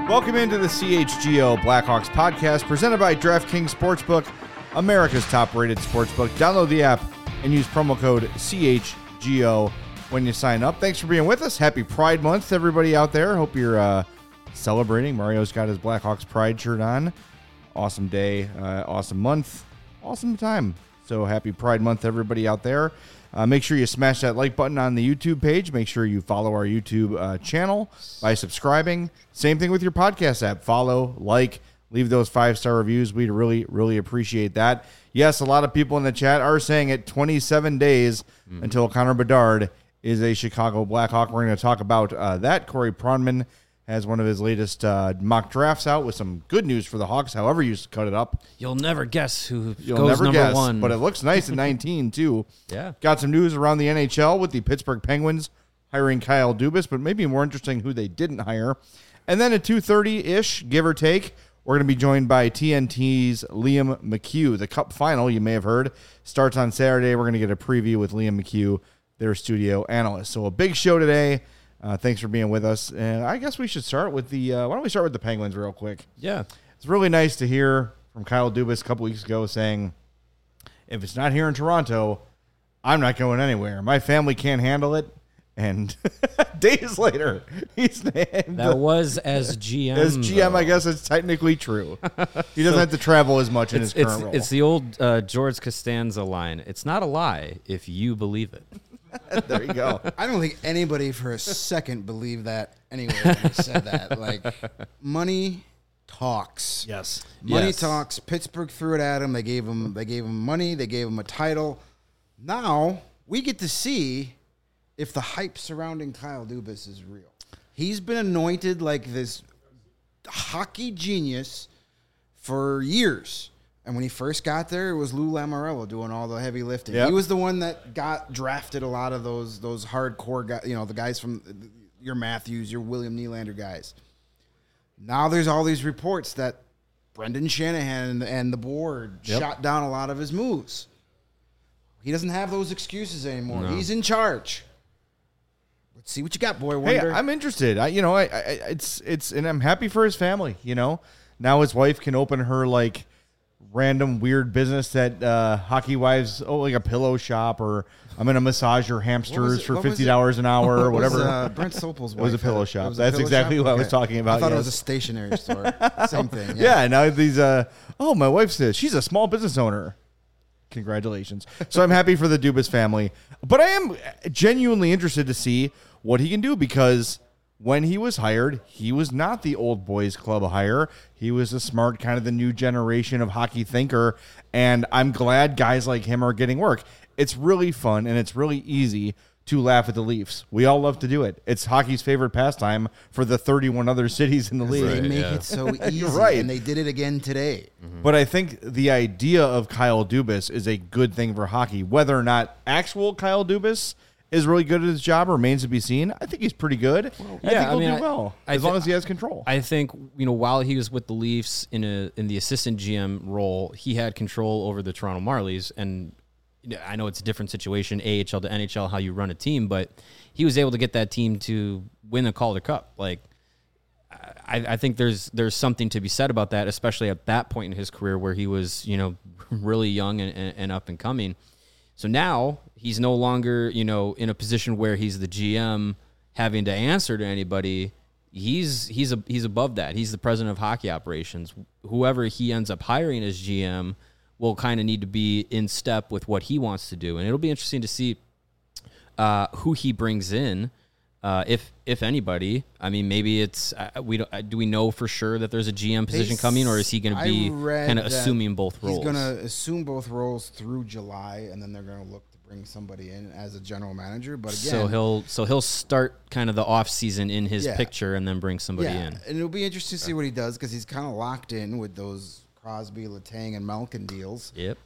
Welcome into the CHGO Blackhawks podcast presented by DraftKings Sportsbook, America's top-rated sportsbook. Download the app and use promo code CHGO when you sign up. Thanks for being with us. Happy Pride Month, everybody out there. Hope you're celebrating. Mario's got his Blackhawks Pride shirt on. Awesome day, awesome month, awesome time. So happy Pride Month, everybody out there. Make sure you smash that like button on the YouTube page. Make sure you follow our YouTube channel by subscribing. Same thing with your podcast app. Follow, like, leave those 5-star reviews. We'd really, really appreciate that. Yes, a lot of people in the chat are saying it 27 days until Connor Bedard is a Chicago Blackhawk. We're going to talk about that. Corey Pronman has one of his latest mock drafts out with some good news for the Hawks, however you cut it up. You'll never guess who goes number one. But it looks nice at 19, too. Yeah. Got some news around the NHL with the Pittsburgh Penguins hiring Kyle Dubas, but maybe more interesting who they didn't hire. And then at 2:30-ish, give or take, we're going to be joined by TNT's Liam McHugh. The Cup final, you may have heard, starts on Saturday. We're going to get a preview with Liam McHugh, their studio analyst. So a big show today. Thanks for being with us. And I guess we should start with the why don't we start with the Penguins real quick? Yeah. It's really nice to hear from Kyle Dubas a couple weeks ago saying, if it's not here in Toronto, I'm not going anywhere. My family can't handle it. And days later, he's named. That was as GM. As GM, though. I guess it's technically true. He doesn't have to travel as much in his current role. It's the old George Costanza line. It's not a lie if you believe it. There you go. I don't think anybody for a second believed that anyway when he said that. Like, money talks. Yes. Money Yes. talks. Pittsburgh threw it at him. They gave him money. They gave him a title. Now we get to see if the hype surrounding Kyle Dubas is real. He's been anointed like this hockey genius for years. And when he first got there, it was Lou Lamoriello doing all the heavy lifting. Yep. He was the one that got drafted a lot of those hardcore guys, the guys from your Matthews, your William Nylander guys. Now there's all these reports that Brendan Shanahan and the board shot down a lot of his moves. He doesn't have those excuses anymore. No. He's in charge. Let's see what you got, boy Hey, wonder. I'm interested. It's and I'm happy for his family. Now his wife can open her like random weird business that hockey wives, like a pillow shop, or I'm going to massage your hamsters for $50 an hour or whatever. Brent Sopel's wife. It was a pillow shop. It was a That's pillow exactly shop? what I was Okay. talking about. I thought it was a yes. stationery store. Same thing. Yeah, now these, my wife says she's a small business owner. Congratulations. So I'm happy for the Dubas family. But I am genuinely interested to see what he can do, because when he was hired, he was not the old boys club hire. He was a smart, kind of the new generation of hockey thinker, and I'm glad guys like him are getting work. It's really fun, and it's really easy to laugh at the Leafs. We all love to do it. It's hockey's favorite pastime for the 31 other cities in the league. They make yeah. it so easy, Right. and they did it again today. But I think the idea of Kyle Dubas is a good thing for hockey. Whether or not actual Kyle Dubas is really good at his job remains to be seen. I think he's pretty good. I think he'll do well as long as he has control. I think while he was with the Leafs in the assistant GM role, he had control over the Toronto Marlies, and I know it's a different situation, AHL to NHL, how you run a team, but he was able to get that team to win a Calder Cup. Like, I think there's something to be said about that, especially at that point in his career where he was really young and up and coming. So now he's no longer, in a position where he's the GM having to answer to anybody. He's above that. He's the president of hockey operations. Whoever he ends up hiring as GM will kind of need to be in step with what he wants to do. And it'll be interesting to see who he brings in, if anybody. I mean, maybe it's do we know for sure that there's a GM position coming, or is he going to be kind of assuming both roles? He's going to assume both roles through July, and then they're going to look to bring somebody in as a general manager. But again, so he'll start kind of the off season in his picture, and then bring somebody in. And it'll be interesting to see what he does, because he's kind of locked in with those Crosby, Letang, and Malkin deals. Yep.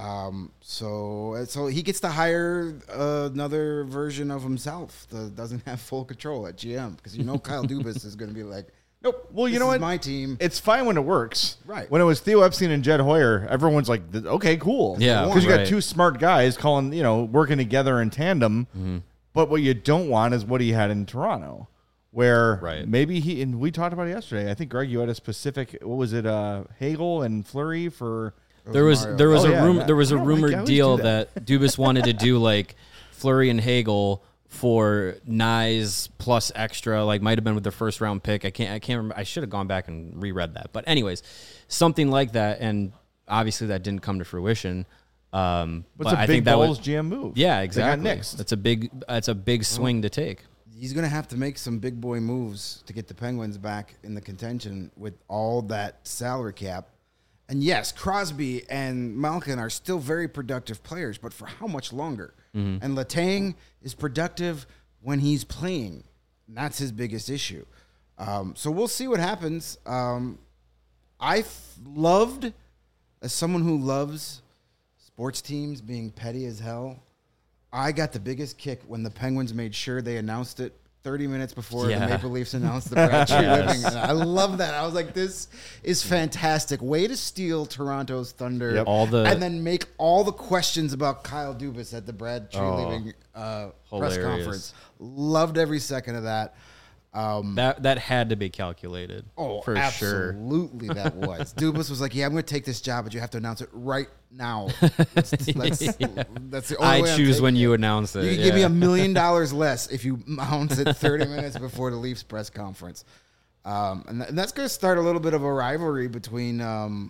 So he gets to hire another version of himself that doesn't have full control at GM, because Kyle Dubas is going to be like, nope. Well, you this know is what? my team. It's fine when it works. Right. When it was Theo Epstein and Jed Hoyer, everyone's like, okay, cool. Yeah, Because you got right. two smart guys working together in tandem. Mm-hmm. But what you don't want is what he had in Toronto, where Right. maybe and we talked about it yesterday. I think, Greg, you had a specific, what was it, Hagel and Fleury for... There was Mario. there was Oh, a yeah, room that- there was I a don't like- I rumored always deal do that Dubas wanted to do like Fleury and Hagel for Nyes plus extra, like might have been with the first round pick. I can't remember. I should have gone back and reread that. But anyways, something like that, and obviously that didn't come to fruition. But It's a I big think that Bulls was GM move. yeah, They exactly. got nixed. That's a big swing to take. He's going to have to make some big boy moves to get the Penguins back in the contention with all that salary cap. And yes, Crosby and Malkin are still very productive players, but for how much longer? And Letang is productive when he's playing. And that's his biggest issue. So we'll see what happens. Loved, as someone who loves sports teams being petty as hell, I got the biggest kick when the Penguins made sure they announced it 30 minutes before Yeah. the Maple Leafs announced the Brad Tree Yes. Living. And I love that. I was like, this is fantastic. Way to steal Toronto's thunder. Yep. And then make all the questions about Kyle Dubas at the Brad Tree Living press hilarious. conference. Loved every second of that. That had to be calculated. Oh, for sure. absolutely that was. Dubas was like, yeah, I'm going to take this job, but you have to announce it right now. That's the only I way I'm choose taking when it. you announce it. You can give me $1 million less if you announce it 30 minutes before the Leafs press conference. And that's going to start a little bit of a rivalry between the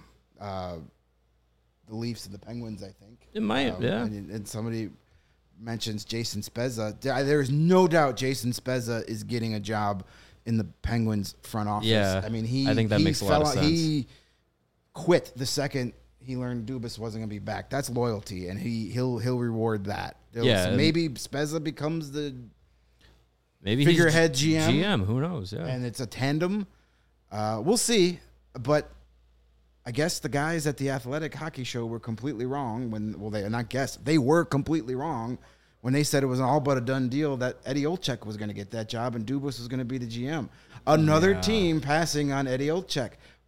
Leafs and the Penguins, I think. It might, yeah. And somebody mentions Jason Spezza. There is no doubt Jason Spezza is getting a job in the Penguins front office. Yeah, I mean, I think that makes a lot of sense. He quit the second he learned Dubas wasn't going to be back. That's loyalty, and he'll reward that. Yeah, and Maybe Spezza becomes the Maybe figurehead he's GM. GM, who knows? Yeah. and it's a tandem. We'll see, but I guess the guys at the Athletic Hockey Show were completely wrong they were completely wrong when they said it was an all but a done deal that Eddie Olczyk was going to get that job and Dubas was going to be the GM. Another team passing on Eddie Olczyk.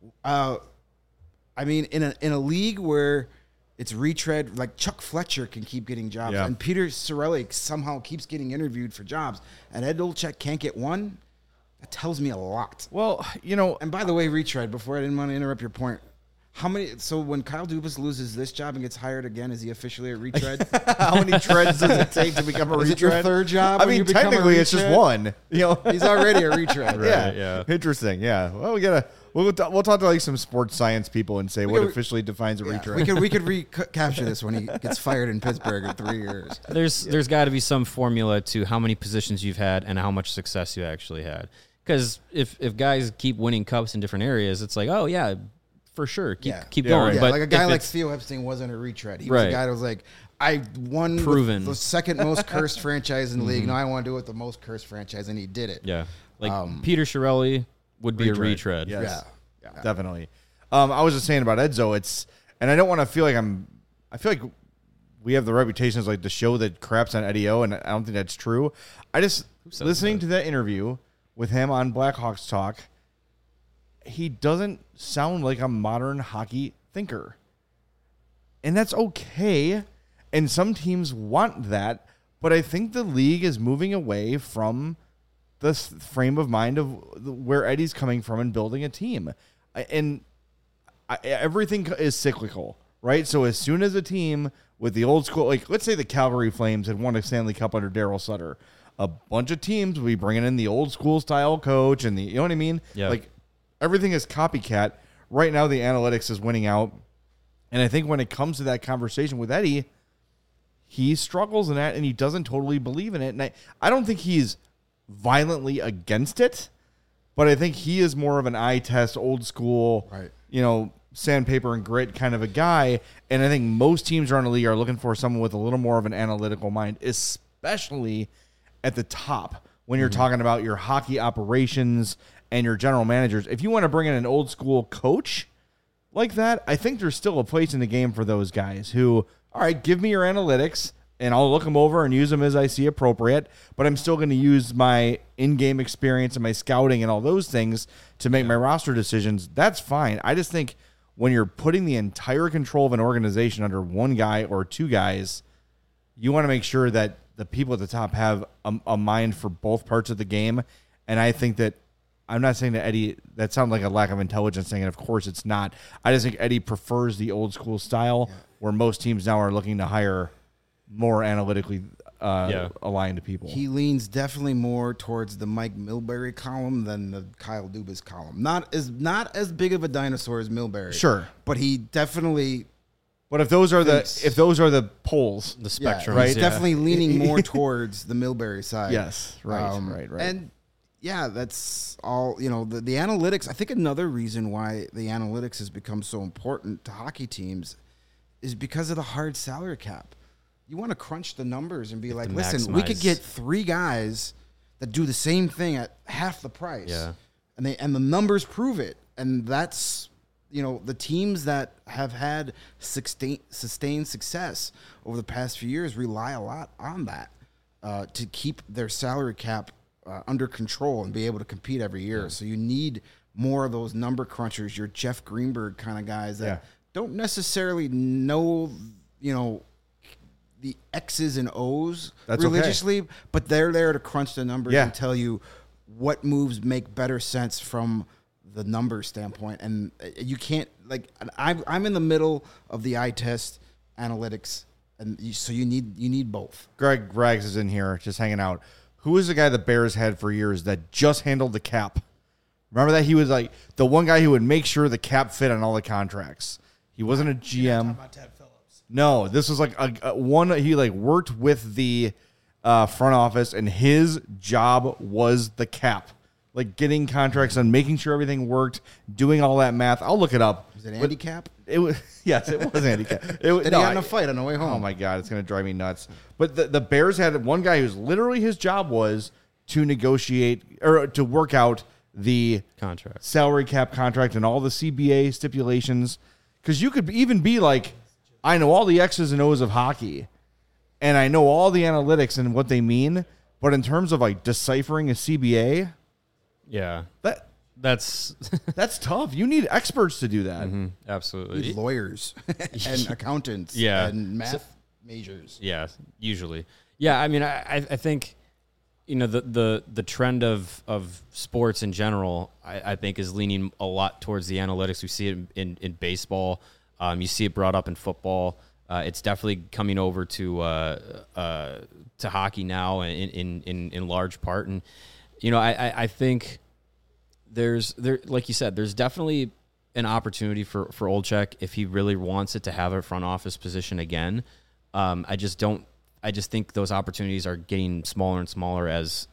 I mean, in a league where it's retread, like Chuck Fletcher can keep getting jobs, Yeah. and Peter Cirelli somehow keeps getting interviewed for jobs, and Ed Olczyk can't get one. That tells me a lot. Well, you know, And by the way, retread, before I didn't want to interrupt your point, so when Kyle Dubas loses this job and gets hired again, is he officially a retread? how many treads does it take to become a Is retread? it your third job I when mean, you become a technically, it's just retread? one. You know, He's already a retread. yeah. Interesting. Yeah. Well, we'll talk to like some sports science people and say what could- officially defines a Yeah, retread. we could recapture this when he gets fired in Pittsburgh in 3 years. There's got to be some formula to how many positions you've had and how much success you actually had. Because if guys keep winning cups in different areas, it's like, oh yeah, for sure, keep Yeah, going. right. Yeah, But like a guy if like it's- Theo Epstein wasn't a retread. He was a Right. guy that was like, I won Proven. with the second most cursed franchise in the league. Now I want to do it with the most cursed franchise, and he did it. yeah, like Peter Chiarelli would be a retread. Yes. Yeah. Definitely. I was just saying about Edzo. And I don't want to feel like I feel like we have the reputation as like the show that craps on Eddie O, and I don't think that's true. I just listening to that interview with him on Blackhawks Talk, he doesn't sound like a modern hockey thinker. And that's okay. And some teams want that, but I think the league is moving away from the frame of mind of where Eddie's coming from and building a team. Everything is cyclical, right? So as soon as a team with the old school, like let's say the Calgary Flames had won a Stanley Cup under Darryl Sutter, a bunch of teams will be bringing in the old school style coach and you know what I mean? Yeah. Like everything is copycat. Right now the analytics is winning out. And I think when it comes to that conversation with Eddie, he struggles in that and he doesn't totally believe in it. And I don't think he's violently against it, but I think he is more of an eye test, old school, Right. you know, sandpaper and grit kind of a guy. And I think most teams around the league are looking for someone with a little more of an analytical mind, especially at the top when you're talking about your hockey operations and your general managers. If you want to bring in an old school coach like that, I think there's still a place in the game for those guys who, all right, give me your analytics and I'll look them over and use them as I see appropriate, but I'm still going to use my in-game experience and my scouting and all those things to make my roster decisions. That's fine. I just think when you're putting the entire control of an organization under one guy or two guys, you want to make sure that the people at the top have a mind for both parts of the game And I think that I'm not saying that Eddie, that sounds like a lack of intelligence thing, and of course it's not. I just think Eddie prefers the old school style where most teams now are looking to hire more analytically aligned people. He leans definitely more towards the Mike Milbury column than the Kyle Dubas column. Not as big of a dinosaur as Milbury. Sure. But he definitely But if those are the polls, The spectrum, he's definitely leaning more towards the Milbury side. yes, right. And yeah, that's all. The analytics. I think another reason why the analytics has become so important to hockey teams is because of the hard salary cap. You want to crunch the numbers and be like, listen, we could get 3 guys that do the same thing at half the price. Yeah. And the numbers prove it. And that's, the teams that have had sustained success over the past few years rely a lot on that to keep their salary cap under control and be able to compete every year. Yeah. So you need more of those number crunchers, your Jeff Greenberg kind of guys that don't necessarily know, the X's and O's religiously, but they're there to crunch the numbers and tell you what moves make better sense from the number standpoint. And you can't, I'm in the middle of the eye test analytics, and so you need both. Greg Rags is in here just hanging out. Who is the guy the Bears had for years that just handled the cap? Remember that? He was like the one guy who would make sure the cap fit on all the contracts. He wasn't a GM. About Ted Phillips. No, this was like a one. He worked with the front office, and his job was the cap, getting contracts and making sure everything worked, doing all that math. I'll look it up. Was it Andy Cap? It was yes, it was Andy Cap. Did he got in a fight on the way home? Oh my God, it's gonna drive me nuts. But the Bears had one guy who's literally his job was to negotiate or to work out the contract, salary cap contract, and all the CBA stipulations. Because you could even be like, I know all the X's and O's of hockey, and I know all the analytics and what they mean. But in terms of deciphering a CBA, that's tough. You need experts to do that. Mm-hmm, absolutely. You need lawyers and accountants and math majors. Yeah, usually. Yeah, I mean, I think, the trend of sports in general, I think, is leaning a lot towards the analytics. We see it in baseball. You see it brought up in football. It's definitely coming over to hockey now in large part. And, I think like you said, there's definitely an opportunity for Olczyk if he really wants it to have a front office position again. I just think those opportunities are getting smaller and smaller as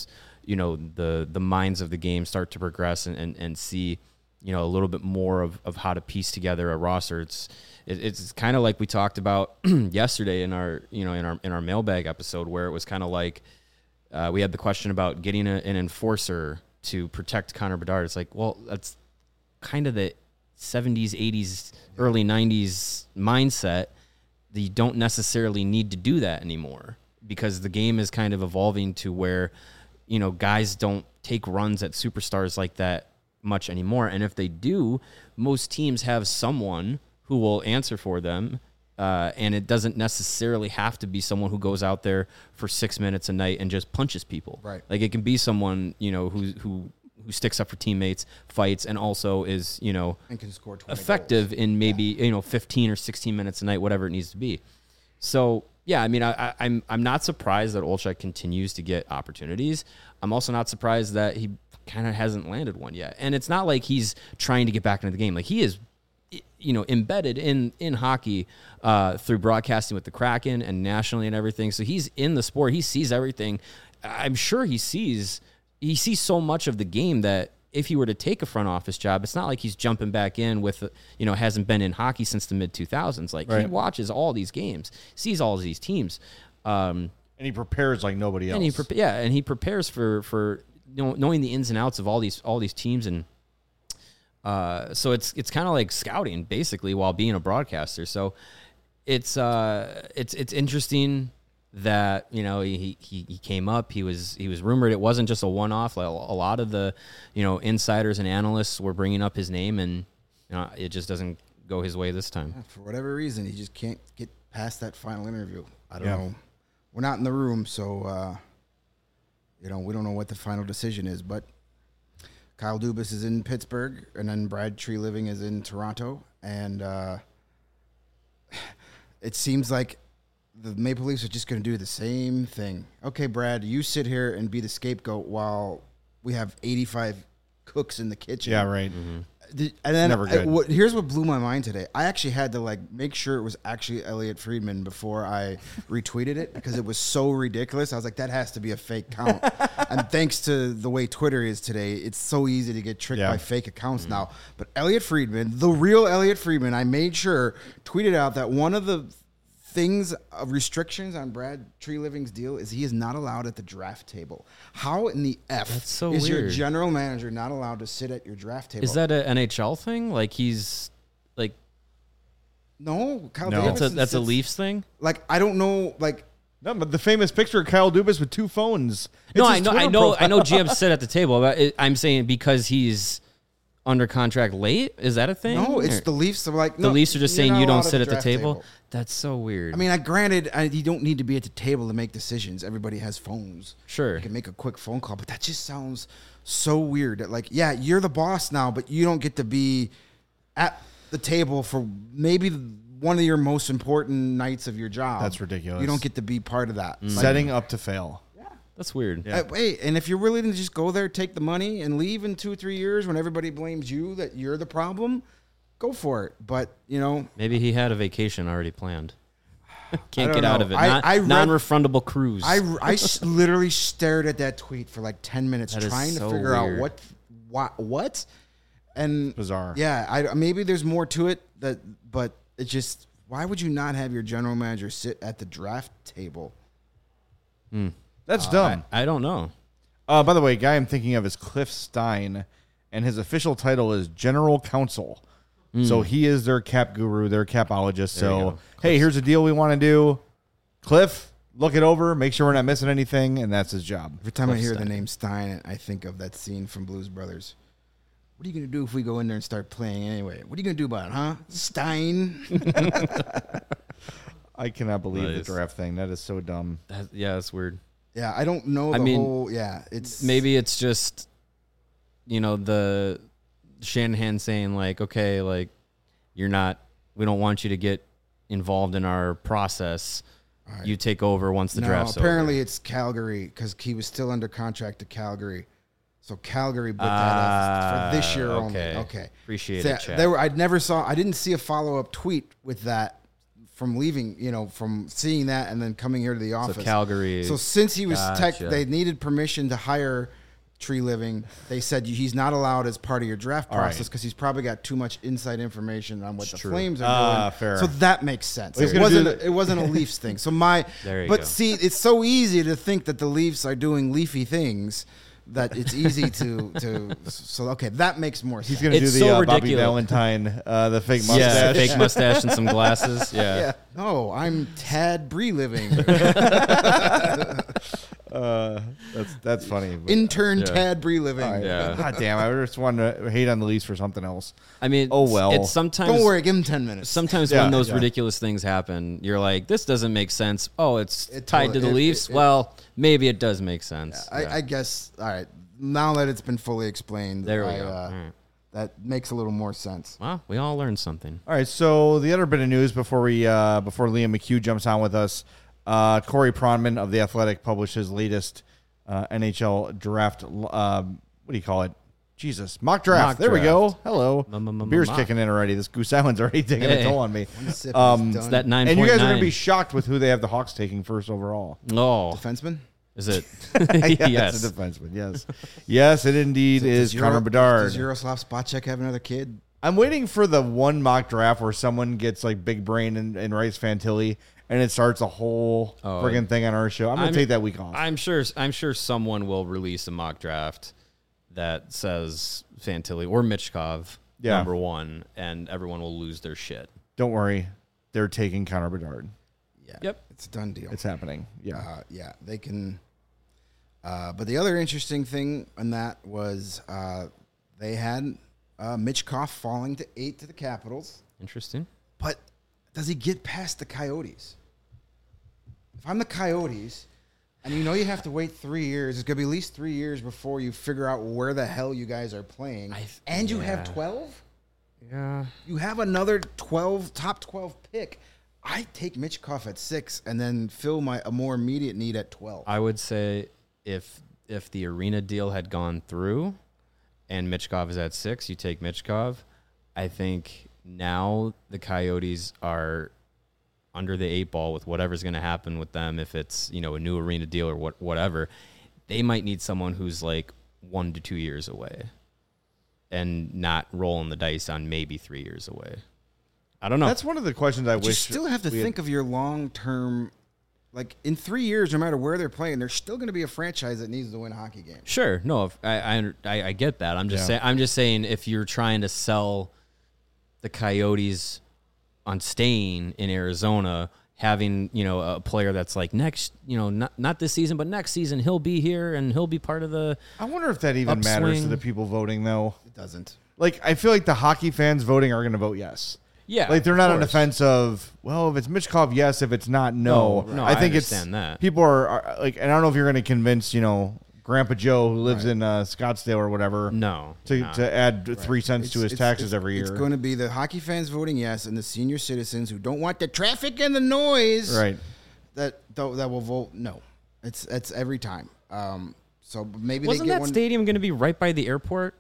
the minds of the game start to progress and see a little bit more of how to piece together a roster. It's kind of like we talked about yesterday in our mailbag episode, where it was kind of like we had the question about getting an enforcer to protect Connor Bedard. It's like, well, that's kind of the 70s, 80s, early 90s mindset. That you don't necessarily need to do that anymore, because the game is kind of evolving to where, guys don't take runs at superstars like that much anymore. And if they do, most teams have someone who will answer for them. And it doesn't necessarily have to be someone who goes out there for 6 minutes a night and just punches people. Right. It can be someone, who sticks up for teammates, fights, and also is, and can score 20 effective goals. in maybe 15 or 16 minutes a night, whatever it needs to be. So yeah, I mean, I'm not surprised that Olczyk continues to get opportunities. I'm also not surprised that he kind of hasn't landed one yet. And it's not like he's trying to get back into the game. He is, embedded in hockey through broadcasting with the Kraken and nationally and everything. So he's in the sport. He sees everything. I'm sure he sees so much of the game that if he were to take a front office job, it's not like he's jumping back in with, hasn't been in hockey since the mid 2000s. He watches all these games, sees all of these teams. And he prepares like nobody else. And he prepares for knowing the ins and outs of all these teams. And so it's kind of like scouting basically while being a broadcaster. So it's interesting that he came up. He was rumored. It wasn't just a one-off. A lot of the insiders and analysts were bringing up his name, and it just doesn't go his way this time. For whatever reason, he just can't get past that final interview. I don't know. We're not in the room, so we don't know what the final decision is, but Kyle Dubas is in Pittsburgh, and then Brad Treliving is in Toronto, and it seems like the Maple Leafs are just going to do the same thing. Okay, Brad, you sit here and be the scapegoat while we have 85 cooks in the kitchen. Yeah, right. And then never good. Here's what blew my mind today. I actually had to make sure it was actually Elliot Friedman before I retweeted it because it was so ridiculous. I was like, that has to be a fake count. And thanks to the way Twitter is today, it's so easy to get tricked by fake accounts now. But Elliot Friedman, the real Elliot Friedman, I made sure tweeted out that one of the things of restrictions on Brad Treliving's deal is he is not allowed at the draft table. How in the F That's so is your weird. general manager not allowed to sit at your draft table? Is that an NHL thing? Like he's like no? Kyle No. Davidson that's a sits- Leafs thing? Like I don't know. Like No, but the famous picture of Kyle Dubas with 2 phones. No, It's his I Twitter know profile. GM sit at the table, but I'm saying because he's under contract late. Is that a thing? no, it's Or- the Leafs. Are like the no, Leafs are just you're saying not you don't allowed sit at the draft table. That's so weird. I mean, granted, you don't need to be at the table to make decisions. Everybody has phones. Sure. You can make a quick phone call, but that just sounds so weird. That, like, yeah, you're the boss now, but you don't get to be at the table for maybe one of your most important nights of your job. That's ridiculous. You don't get to be part of that. Like, Setting up to fail. that's weird. Yeah. wait, and if you're willing to just go there, take the money, and leave in 2 or 3 years when everybody blames you that you're the problem, go for it. But, Maybe he had a vacation already planned. Can't don't get out know. of it. I read- Non-refundable cruise. literally stared at that tweet for like 10 minutes That is trying to so figure weird. out what. And Bizarre. Yeah, maybe there's more to it but it just, why would you not have your general manager sit at the draft table? That's dumb. I don't know. By the way, guy I'm thinking of is Cliff Stein, and his official title is General Counsel. So he is their cap guru, their capologist. you So, go. hey, here's a deal we want to do. Cliff, look it over, make sure we're not missing anything, and that's his job. Every time I Cliff hear Stein. the name Stein, I think of that scene from Blues Brothers. What are you going to do if we go in there and start playing anyway? What are you going to do about it, huh? Stein. I cannot believe Nice. the draft thing. That is so dumb. That's weird. Yeah, I don't know the whole, it's... Maybe it's just, the Shanahan saying like, okay, like we don't want you to get involved in our process. Right. You take over once the draft's apparently over. it's Calgary because he was still under contract to Calgary. So Calgary put that up for this year only. Okay. Appreciate So, it, Chad. I didn't see a follow-up tweet with that from leaving, from seeing that and then coming here to the office. Calgary. So since he was Gotcha. they needed permission to hire Treliving, they said he's not allowed as part of your draft All right. process because he's probably got too much inside information on what the true. Flames are doing. Fair. So that makes sense. He's It gonna do wasn't, it wasn't a Leafs thing. So There you but go. see, it's so easy to think that the Leafs are doing leafy things that it's easy to so okay, that makes more sense. He's going to do It's the so Bobby ridiculous. Valentine, the fake Yeah, mustache. fake mustache and some glasses. Yeah. No, I'm Tad Breliving. That's funny. But- Intern Yeah. Tad Breliving. All right. Yeah. God damn, I just wanted to hate on the Leafs for something else. I mean, Oh, well. It's sometimes. Don't worry, give him 10 minutes. Sometimes Yeah, when those yeah. ridiculous things happen, you're like, this doesn't make sense. Oh, it's tied to the it- Leafs. it- Well, maybe it does make sense. Yeah. I guess, all right, now that it's been fully explained, There we go. All right. that makes a little more sense. Well, we all learned something. All right, so the other bit of news before Liam McHugh jumps on with us, Corey Pronman of The Athletic published his latest NHL draft, what do you call it? Jesus, mock draft. Mock There we draft. go. Hello. Beer's Mock. kicking in already. This Goose Island's already taking a Hey. toll on me. One sip is Um, done. It's that 9.9. And you guys are going to be shocked with who they have the Hawks taking first overall. Oh, Defenseman? is it? Yeah, Yes. it's a defenseman. Yes, yes, it indeed is Connor Bedard. Does Yaroslav Spacek have another kid? I'm waiting for the one mock draft where someone gets like big brain and writes Fantilli, and it starts a whole friggin' thing on our show. I'm gonna take that week off. I'm sure someone will release a mock draft that says Fantilli or Michkov number one, and everyone will lose their shit. Don't worry, they're taking Connor Bedard. Yeah. Yep. It's a done deal. It's happening. Yeah. Yeah, they can. But the other interesting thing in that was they had Michkov falling to 8 to the Capitals. Interesting. But does he get past the Coyotes? If I'm the Coyotes, And you have to wait 3 years. It's going to be at least 3 years before you figure out where the hell you guys are playing. And you have 12? Yeah. You have another top 12 pick. I take Michkov at 6 and then fill a more immediate need at 12. I would say if the arena deal had gone through and Michkov is at 6, you take Michkov. I think now the Coyotes are under the 8 ball with whatever's going to happen with them. If it's, a new arena deal or whatever, they might need someone who's like 1 to 2 years away and not rolling the dice on maybe 3 years away. I don't know. That's one of the questions I wish. You still have to think of your long-term, like in 3 years, no matter where they're playing, there's still going to be a franchise that needs to win a hockey game. Sure. No, I get that. I'm just saying if you're trying to sell the Coyotes on staying in Arizona, having, a player that's like next, not this season, but next season he'll be here and he'll be part of the I wonder if that even matters to the people voting, though. It doesn't. Like, I feel like the hockey fans voting are going to vote yes. Yeah. Like, they're not on the fence of, well, if it's Michkov, yes. If it's not, no. No, I think I understand it's that. People are like, and I don't know if you're going to convince, Grandpa Joe who lives in Scottsdale or whatever. To add 3 cents to his taxes every year. It's going to be the hockey fans voting yes, and the senior citizens who don't want the traffic and the noise, right? That will vote no. It's every time. So maybe wasn't they get that one. stadium going to be right by the airport?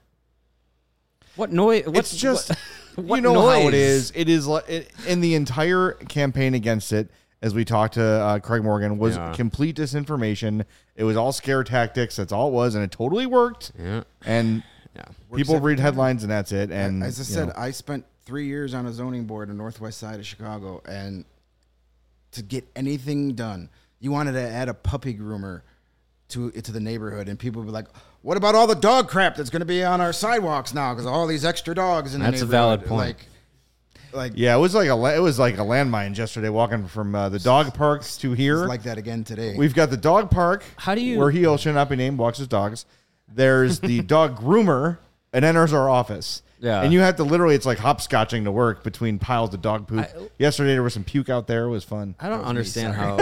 What noise? It's just what how noise? it is. It is in the entire campaign against it. As we talked to Craig Morgan, was complete disinformation. It was all scare tactics. That's all it was, and it totally worked. Yeah. And people read headlines, and that's it. And as I said, I spent 3 years on a zoning board in the northwest side of Chicago, and to get anything done, you wanted to add a puppy groomer to the neighborhood, and people would be like, "What about all the dog crap that's going to be on our sidewalks now because all these extra dogs in the neighborhood?" That's a valid point. Yeah, it was like a landmine yesterday walking from the dog park to here. It's like that again today. We've got the dog park. How do you where he should not be named walks his dogs. There's the dog groomer and enters our office. Yeah, and you have to literally it's like hopscotching to work between piles of dog poop. Yesterday there was some puke out there. It was fun. I don't understand how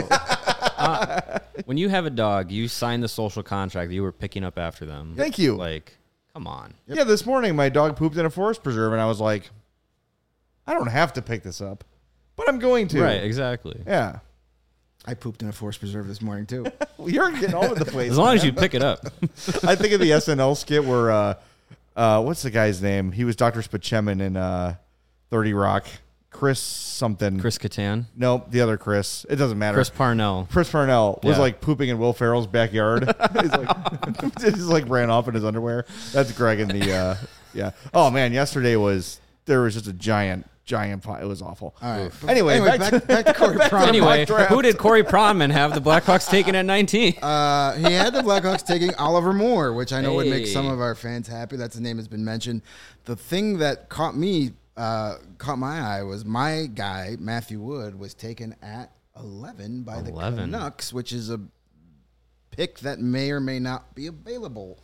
when you have a dog, you sign the social contract that you were picking up after them. Thank you. Like, come on. Yep. Yeah, this morning my dog pooped in a forest preserve, and I was like, I don't have to pick this up, but I'm going to. Right, exactly. Yeah. I pooped in a forest preserve this morning, too. Well, you're getting all over the place. As long as you pick it up. I think of the SNL skit where, what's the guy's name? He was Dr. Spaceman in 30 Rock. Chris something. Chris Kattan? Nope, the other Chris. It doesn't matter. Chris Parnell. Chris Parnell was like pooping in Will Ferrell's backyard. He's like ran off in his underwear. That's Greg in the, yeah. Oh, man, yesterday there was just a giant pile. It was awful. All right. Anyway, back to Corey Prom. Anyway, who did Corey Prom and have the Blackhawks taken at 19? He had the Blackhawks taking Oliver Moore, which I know would make some of our fans happy. That's the name has been mentioned. The thing that caught my eye was my guy, Matthew Wood, was taken at 11 by the Canucks, which is a pick that may or may not be available.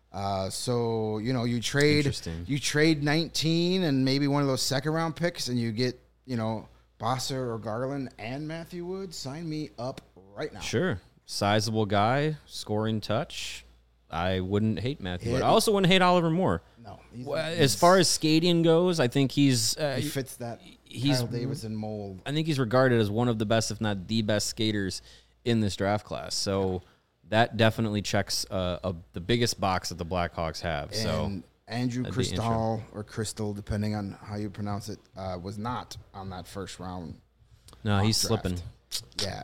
So you trade 19 and maybe one of those second round picks, and you get Bosser or Garland and Matthew Wood. Sign me up right now. Sure, sizable guy, scoring touch. I wouldn't hate Matthew Wood. I also wouldn't hate Oliver Moore. No, as far as skating goes, I think he fits that Kyle Davidson mold. I think he's regarded as one of the best, if not the best, skaters in this draft class. So. That definitely checks the biggest box that the Blackhawks have. And Andrew Crystal or Crystal, depending on how you pronounce it, was not on that first round. No, he's draft. slipping. Yeah,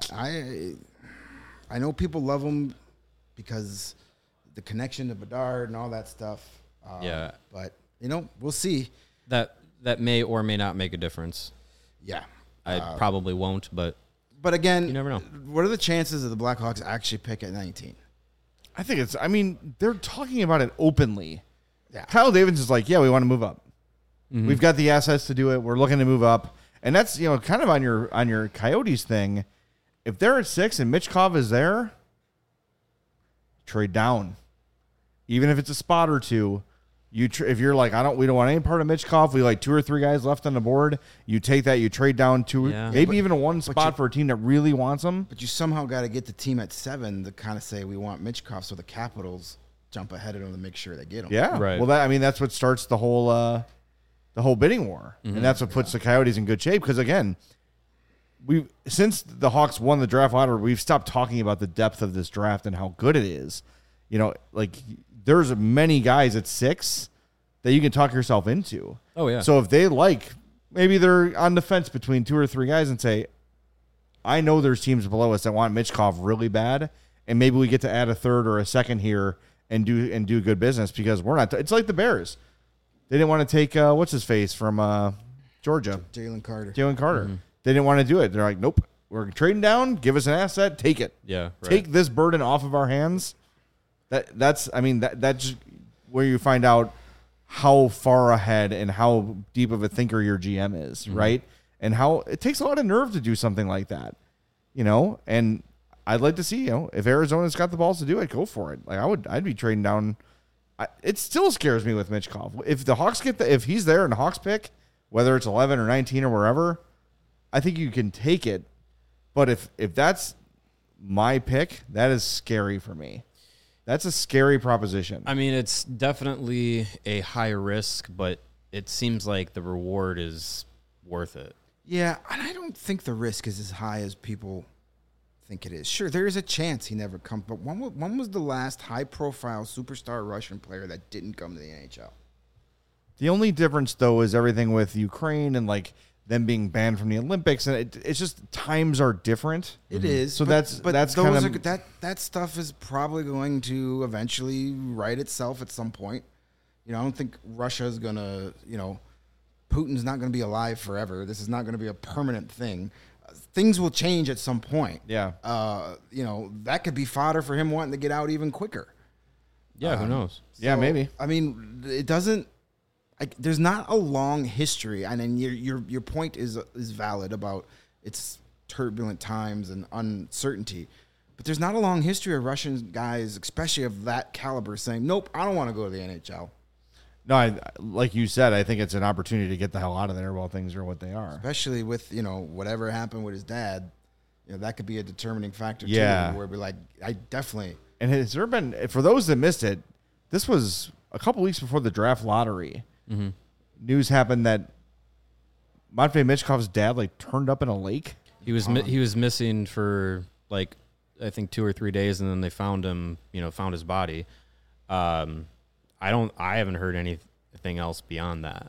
I know people love him because the connection to Bedard and all that stuff. Yeah, but we'll see. That may or may not make a difference. Yeah, I probably won't, but. But again, you never know. What are the chances of the Blackhawks actually pick at 19? I think they're talking about it openly. Yeah. Kyle Davidson is like, yeah, we want to move up. Mm-hmm. We've got the assets to do it. We're looking to move up. And that's, kind of on your Coyotes thing. If they're at 6 and Michkov is there, trade down. Even if it's a spot or two, If you're like, we don't want any part of Michkov. We like 2 or 3 guys left on the board. You take that, you trade down 2, maybe even a 1 spot for a team that really wants him. But you somehow got to get the team at 7 to kind of say we want Michkov, so the Capitals jump ahead of them to make sure they get him. Yeah, right. Well, that's what starts the whole bidding war, and that's what puts the Coyotes in good shape. Because again, since the Hawks won the draft lottery, we've stopped talking about the depth of this draft and how good it is. Like there's many guys at 6 that you can talk yourself into. Oh yeah. So if they maybe they're on the fence between 2 or 3 guys and say, I know there's teams below us that want Michkov really bad, and maybe we get to add a 3rd or a 2nd here and do good business because we're not. It's like the Bears. They didn't want to take what's his face from Georgia, Jalen Carter. Mm-hmm. They didn't want to do it. They're like, nope, we're trading down. Give us an asset. Take it. Yeah. Right. Take this burden off of our hands. That's just where you find out how far ahead and how deep of a thinker your GM is, right? And how it takes a lot of nerve to do something like that, and I'd like to see, if Arizona's got the balls to do it, go for it. Like I'd be trading down. It still scares me with Michkov. If the Hawks if he's there and the Hawks pick, whether it's 11 or 19 or wherever, I think you can take it. But if that's my pick, that is scary for me. That's a scary proposition. I mean, it's definitely a high risk, but it seems like the reward is worth it. Yeah, and I don't think the risk is as high as people think it is. Sure, there is a chance he never comes, but when was the last high-profile superstar Russian player that didn't come to the NHL? The only difference, though, is everything with Ukraine and them being banned from the Olympics, and it's just times are different. It is. So that's those kind of that stuff is probably going to eventually right itself at some point. I don't think Russia's gonna. Putin's not going to be alive forever. This is not going to be a permanent thing. Things will change at some point. Yeah. That could be fodder for him wanting to get out even quicker. Yeah, who knows? Yeah, maybe. I mean, it doesn't. There's not a long history, and then your point is valid about it's turbulent times and uncertainty, but there's not a long history of Russian guys, especially of that caliber, saying, "Nope, I don't want to go to the NHL." No, like you said, I think it's an opportunity to get the hell out of there while things are what they are. Especially with whatever happened with his dad, that could be a determining factor too. Where we're like, I definitely. And has there been, for those that missed it, this was a couple weeks before the draft lottery. Mm-hmm. News happened that Matvei Michkov's dad turned up in a lake. He was missing for I think 2 or 3 days, and then they found him. Found his body. I haven't heard anything else beyond that.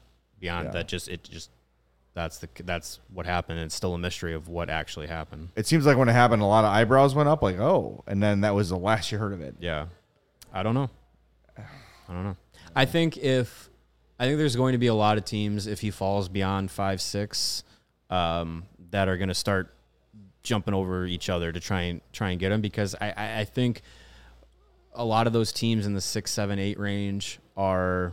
That's what happened. It's still a mystery of what actually happened. It seems like when it happened, a lot of eyebrows went up, and then that was the last you heard of it. Yeah, I don't know. I think there's going to be a lot of teams if he falls beyond 5-6 that are going to start jumping over each other to try and get him, because I think a lot of those teams in the 6, 7, 8 range are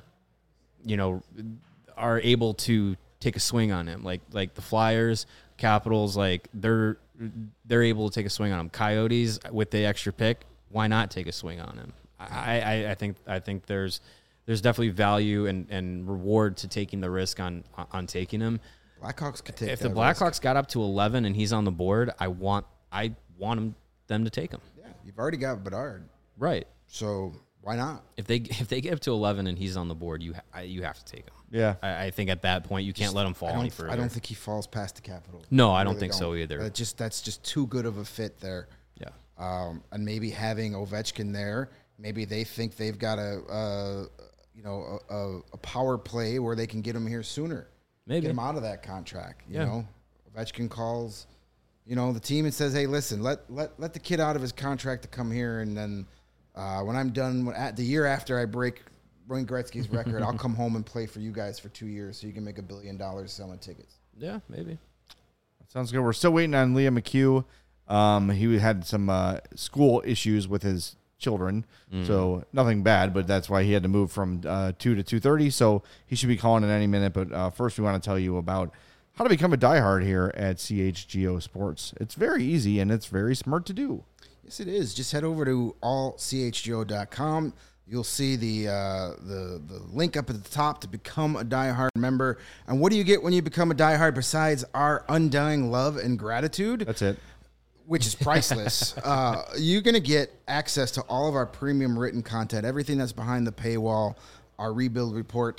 able to take a swing on him. Like the Flyers, Capitals, they're able to take a swing on him. Coyotes with the extra pick, why not take a swing on him? I think there's definitely value and reward to taking the risk on taking him. Blackhawks could take. If the Blackhawks got up to 11 and he's on the board, I want them to take him. Yeah, you've already got Bedard. Right. So why not? If they get up to 11 and he's on the board, you have to take him. Yeah. I think at that point you can't let him fall any further. I don't think he falls past the Capitals. No, I don't think so either. That's just too good of a fit there. Yeah. And maybe having Ovechkin there, maybe they think they've got a power play where they can get him here sooner. Maybe get him out of that contract. Ovechkin calls, the team and says, "Hey, listen, let the kid out of his contract to come here, and then when I'm done, at the year after I break Wayne Gretzky's record, I'll come home and play for you guys for 2 years, so you can make $1 billion selling tickets." Yeah, maybe. Sounds good. We're still waiting on Liam McHugh. He had some school issues with his children, so nothing bad, but that's why he had to move from 2 to 2:30, so he should be calling in any minute. But first we want to tell you about how to become a diehard here at CHGO Sports. It's very easy and it's very smart to do. Yes, it is. Just head over to allchgo.com. You'll see the link up at the top to become a diehard member. And what do you get when you become a diehard besides our undying love and gratitude? That's it. Which is priceless. You're going to get access to all of our premium written content, everything that's behind the paywall, our rebuild report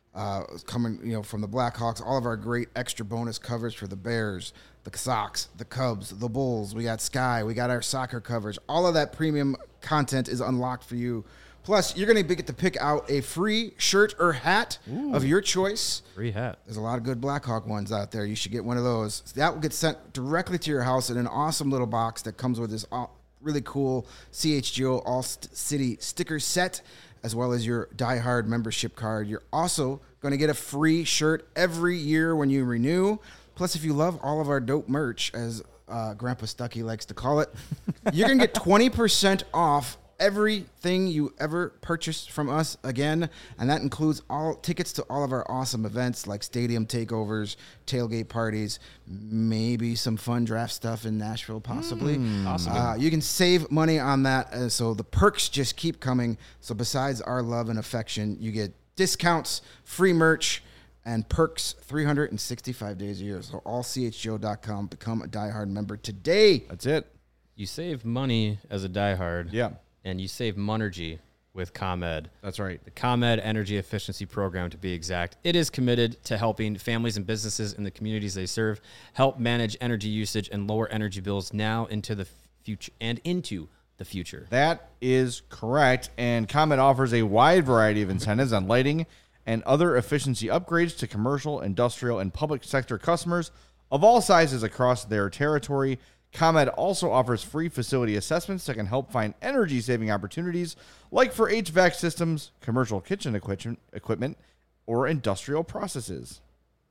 coming from the Blackhawks, all of our great extra bonus covers for the Bears, the Sox, the Cubs, the Bulls. We got Sky. We got our soccer coverage. All of that premium content is unlocked for you. Plus, you're going to get to pick out a free shirt or hat of your choice. Free hat. There's a lot of good Blackhawk ones out there. You should get one of those. That will get sent directly to your house in an awesome little box that comes with this really cool CHGO All-City sticker set, as well as your diehard membership card. You're also going to get a free shirt every year when you renew. Plus, if you love all of our dope merch, as Grandpa Stuckey likes to call it, you're going to get 20% off everything you ever purchase from us again, and that includes all tickets to all of our awesome events like stadium takeovers, tailgate parties, maybe some fun draft stuff in Nashville, possibly. Awesome. You can save money on that, so the perks just keep coming. So besides our love and affection, you get discounts, free merch, and perks 365 days a year. So allchgo.com, become a diehard member today. That's it. You save money as a diehard. Yeah. And you save Monergy with ComEd. That's right. The ComEd Energy Efficiency Program, to be exact. It is committed to helping families and businesses in the communities they serve help manage energy usage and lower energy bills now into the future and into the future. That is correct. And ComEd offers a wide variety of incentives on lighting and other efficiency upgrades to commercial, industrial, and public sector customers of all sizes across their territory. ComEd also offers free facility assessments that can help find energy-saving opportunities, like for HVAC systems, commercial kitchen equipment, or industrial processes.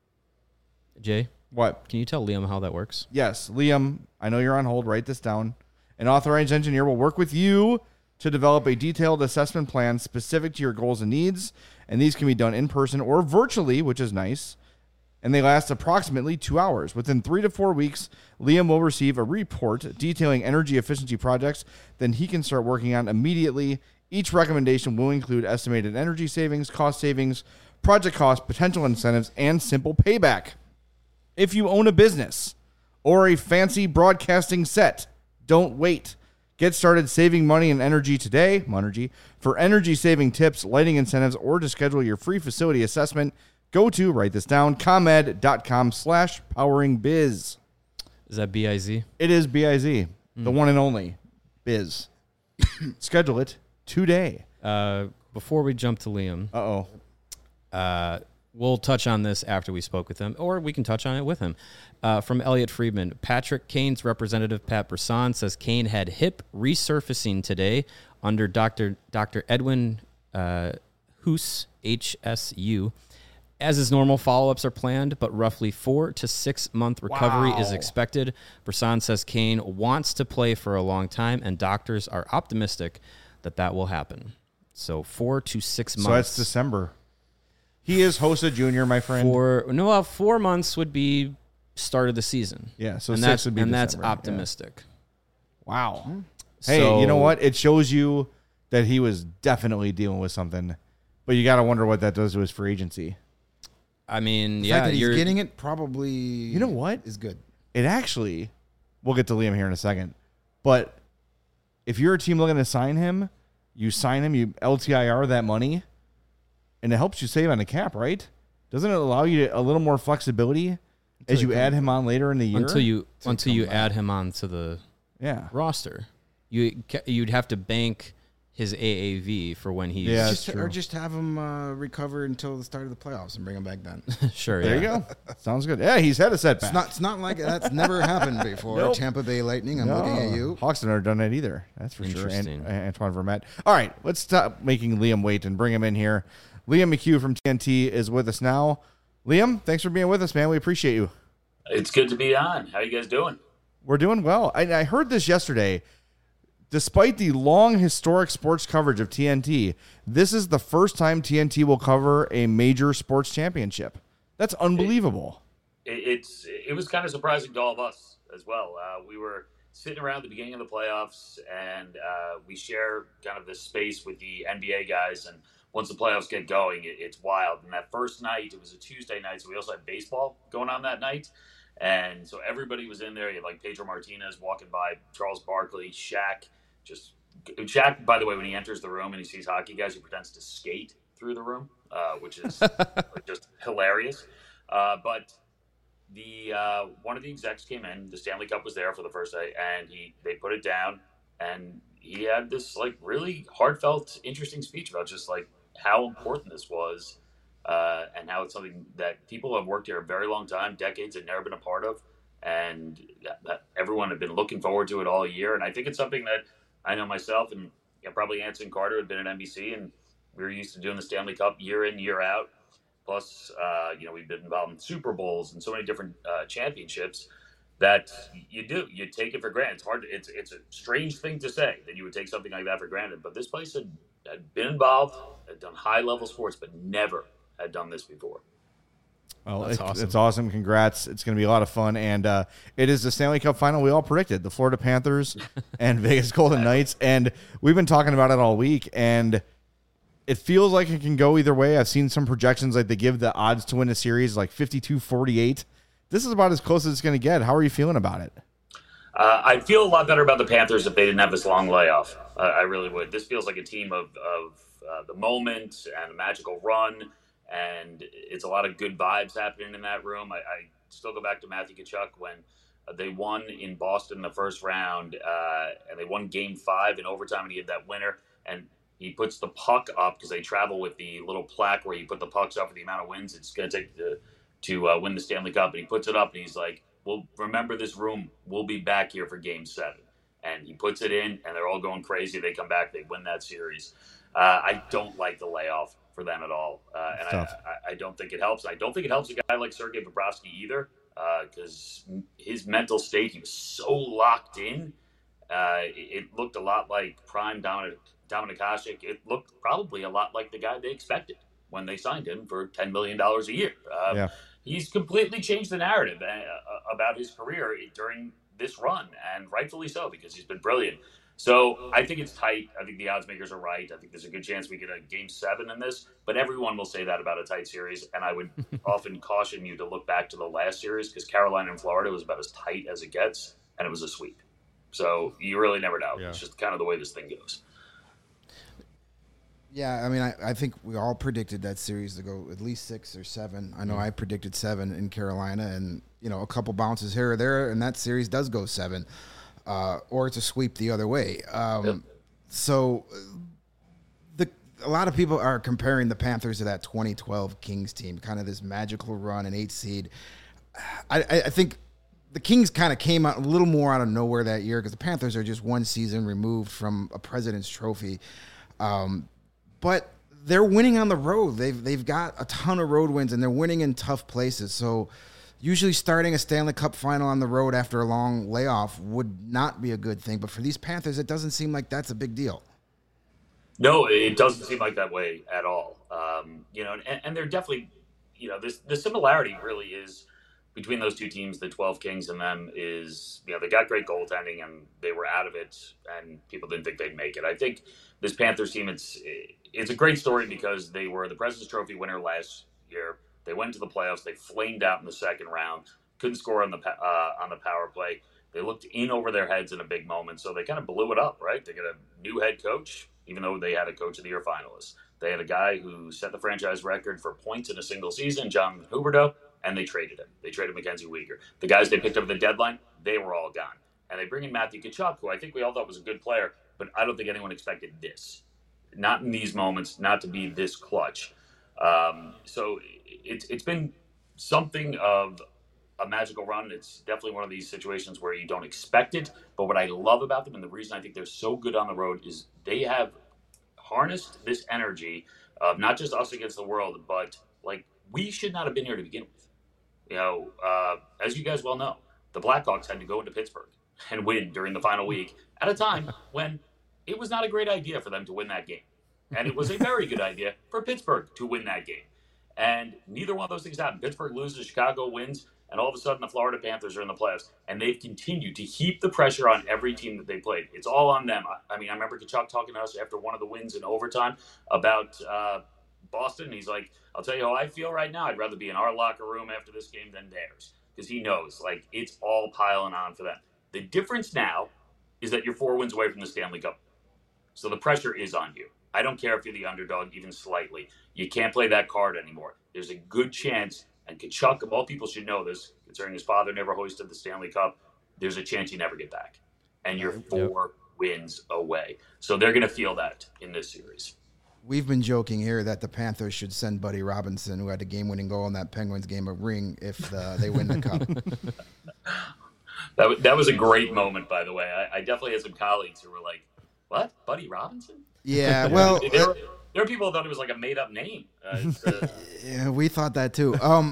Jay? What? Can you tell Liam how that works? Yes. Liam, I know you're on hold. Write this down. An authorized engineer will work with you to develop a detailed assessment plan specific to your goals and needs, and these can be done in person or virtually, which is nice. And they last approximately 2 hours. Within 3 to 4 weeks, Liam will receive a report detailing energy efficiency projects that he can start working on immediately. Each recommendation will include estimated energy savings, cost savings, project costs, potential incentives, and simple payback. If you own a business or a fancy broadcasting set, don't wait. Get started saving money and energy today, Monergy. For energy-saving tips, lighting incentives, or to schedule your free facility assessment, go to, write this down, comed.com/poweringbiz. Is that B-I-Z? It is B-I-Z, the one and only biz. Schedule it today. Before we jump to Liam, we'll touch on this after we spoke with him, or we can touch on it with him. From Elliot Friedman, Patrick Kane's representative, Pat Brisson, says Kane had hip resurfacing today under Dr. Edwin Hoos, HSU. As is normal, follow-ups are planned, but roughly 4 to 6 month recovery is expected. Brisson says Kane wants to play for a long time, and doctors are optimistic that will happen. So 4 to 6 months. So that's December. He is Hossa Jr., my friend. 4 months would be start of the season. Yeah, so and 6 would be December. That's optimistic. Yeah. Wow. Hey, you know what? It shows you that he was definitely dealing with something, but you got to wonder what that does to his free agency. I mean, the fact that he's getting it probably. You know what is good. It actually, we'll get to Liam here in a second, but if you're a team looking to sign him, you sign him, you LTIR that money, and it helps you save on the cap, right? Doesn't it allow you a little more flexibility as you add him on later in the year? Until you add him on to the roster, you'd have to bank his AAV for when he's just have him recover until the start of the playoffs and bring him back then. Sure, there you go. Sounds good. Yeah, he's had a setback. It's not like that's never happened before. Nope. Tampa Bay Lightning. I'm looking at you. Hawks have never done that either. That's for sure. And Antoine Vermette. All right, let's stop making Liam wait and bring him in here. Liam McHugh from TNT is with us now. Liam, thanks for being with us, man. We appreciate you. It's good to be on. How you guys doing? We're doing well. I heard this yesterday. Despite the long historic sports coverage of TNT, this is the first time TNT will cover a major sports championship. That's unbelievable. It was kind of surprising to all of us as well. We were sitting around the beginning of the playoffs, and we share kind of this space with the NBA guys. And once the playoffs get going, it's wild. And that first night, it was a Tuesday night, so we also had baseball going on that night. And so everybody was in there. You had like Pedro Martinez walking by, Charles Barkley, Shaq. Shaq, by the way, when he enters the room and he sees hockey guys, he pretends to skate through the room, which is just hilarious. But one of the execs came in. The Stanley Cup was there for the first day, and they put it down, and he had this like really heartfelt, interesting speech about just like how important this was, and how it's something that people have worked here a very long time, decades, had never been a part of, and that everyone had been looking forward to it all year. And I think it's something that I know myself and probably Anson Carter had been at NBC, and we were used to doing the Stanley Cup year in, year out. Plus, we've been involved in Super Bowls and so many different championships that you take it for granted. It's a strange thing to say that you would take something like that for granted. But this place had been involved, had done high level sports, but never had done this before. Well, it's awesome. Congrats. It's going to be a lot of fun. And it is the Stanley Cup final we all predicted, the Florida Panthers and Vegas Golden Knights. And we've been talking about it all week, and it feels like it can go either way. I've seen some projections like they give the odds to win a series like 52-48. This is about as close as it's going to get. How are you feeling about it? I'd feel a lot better about the Panthers if they didn't have this long layoff. I really would. This feels like a team of the moment and a magical run, and it's a lot of good vibes happening in that room. I still go back to Matthew Tkachuk when they won in Boston in the first round, and they won Game 5 in overtime, and he had that winner, and he puts the puck up because they travel with the little plaque where you put the pucks up for the amount of wins it's going to take to win the Stanley Cup. And he puts it up, and he's like, well, remember this room. We'll be back here for Game 7. And he puts it in, and they're all going crazy. They come back. They win that series. I don't like the layoff for them at all. And I don't think it helps. I don't think it helps a guy like Sergei Bobrovsky either, because his mental state, he was so locked in. It looked a lot like prime Dominik Hasek. It looked probably a lot like the guy they expected when they signed him for $10 million a year. He's completely changed the narrative about his career during this run, and rightfully so, because he's been brilliant. So I think it's tight. I think the odds makers are right. I think there's a good chance we get a Game 7 in this, but everyone will say that about a tight series. And I would often caution you to look back to the last series, because Carolina and Florida was about as tight as it gets, and it was a sweep. So you really never know. Yeah. It's just kind of the way this thing goes. Yeah, I mean, I think we all predicted that series to go at least 6 or 7. I know I predicted 7 in Carolina, and, a couple bounces here or there, and that series does go 7. Or it's a sweep the other way. So a lot of people are comparing the Panthers to that 2012 Kings team, kind of this magical run, an 8 seed. I think the Kings kind of came out a little more out of nowhere that year, because the Panthers are just one season removed from a President's Trophy. But they're winning on the road. They've got a ton of road wins, and they're winning in tough places. So usually starting a Stanley Cup final on the road after a long layoff would not be a good thing. But for these Panthers, it doesn't seem like that's a big deal. No, it doesn't seem like that way at all. And they're definitely, the similarity really is between those two teams, the 12 Kings and them, is, they got great goaltending and they were out of it and people didn't think they'd make it. I think this Panthers team, it's a great story because they were the President's Trophy winner last year. They went to the playoffs. They flamed out in the second round. Couldn't score on the power play. They looked in over their heads in a big moment, so they kind of blew it up, right? They got a new head coach, even though they had a Coach of the Year finalist. They had a guy who set the franchise record for points in a single season, John Huberdeau, and they traded him. They traded Mackenzie Weegar. The guys they picked up at the deadline, they were all gone. And they bring in Matthew Tkachuk, who I think we all thought was a good player, but I don't think anyone expected this. Not in these moments, not to be this clutch. So it's been something of a magical run. It's definitely one of these situations where you don't expect it. But what I love about them, and the reason I think they're so good on the road, is they have harnessed this energy of not just us against the world, but like we should not have been here to begin with. As you guys well know, the Blackhawks had to go into Pittsburgh and win during the final week at a time when it was not a great idea for them to win that game. And it was a very good idea for Pittsburgh to win that game. And neither one of those things happened. Pittsburgh loses, Chicago wins. and all of a sudden the Florida Panthers are in the playoffs, and they've continued to heap the pressure on every team that they played. It's all on them. I mean, I remember Kachuk talking to us after one of the wins in overtime about Boston. He's like, I'll tell you how I feel right now. I'd rather be in our locker room after this game than theirs, because he knows, like, it's all piling on for them. The difference now is that you're 4 wins away from the Stanley Cup. So the pressure is on you. I don't care if you're the underdog even slightly. You can't play that card anymore. There's a good chance, and Kachuk, of all people, should know this, considering his father never hoisted the Stanley Cup, there's a chance you never get back. And you're 4 wins away. So they're going to feel that in this series. We've been joking here that the Panthers should send Buddy Robinson, who had the game-winning goal in that Penguins game, a ring if they win the Cup. That was a great moment, by the way. I definitely had some colleagues who were like, what? Buddy Robinson? Yeah, well... There are people who thought it was like a made-up name. Yeah, we thought that too.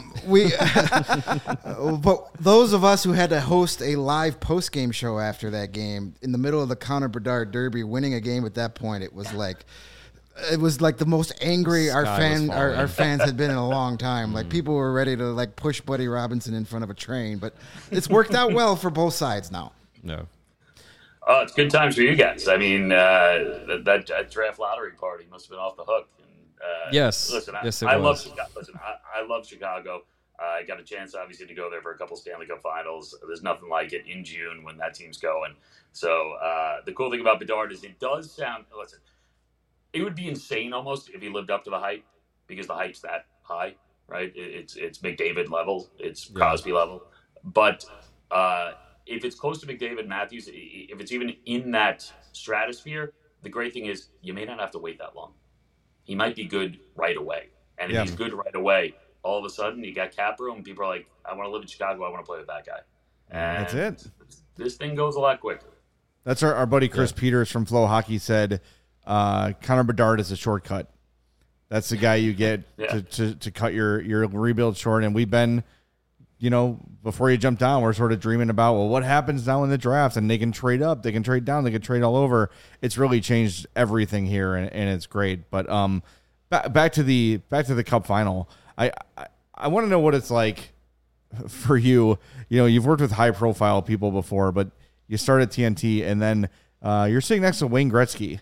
But those of us who had to host a live post-game show after that game, in the middle of the Connor Bedard Derby, winning a game at that point, it was like the most angry our fans had been in a long time. Like, people were ready to like push Buddy Robinson in front of a train, but it's worked out well for both sides now. No. Oh, it's good times for you guys. I mean, that draft lottery party must have been off the hook. And, yes. Listen, yes, I love Chicago. Listen, I love Chicago. I got a chance, obviously, to go there for a couple Stanley Cup Finals. There's nothing like it in June when that team's going. So the cool thing about Bedard is it does sound. Listen, it would be insane almost if he lived up to the hype, because the hype's that high, right? It's McDavid level. It's Crosby level. But if it's close to McDavid, Matthews, if it's even in that stratosphere, the great thing is you may not have to wait that long. He might be good right away. And if he's good right away, all of a sudden you got cap room. People are like, I want to live in Chicago. I want to play with that guy. And that's it. This thing goes a lot quicker. That's our buddy Chris Peters from Flow Hockey said, Connor Bedard is a shortcut. That's the guy you get to cut your rebuild short. And we've been, before you jump down, we're sort of dreaming about, well, what happens now in the draft? And they can trade up, they can trade down, they can trade all over. It's really changed everything here, and it's great. But back to the Cup final. I want to know what it's like for you. You've worked with high profile people before, but you start at TNT, and then you're sitting next to Wayne Gretzky.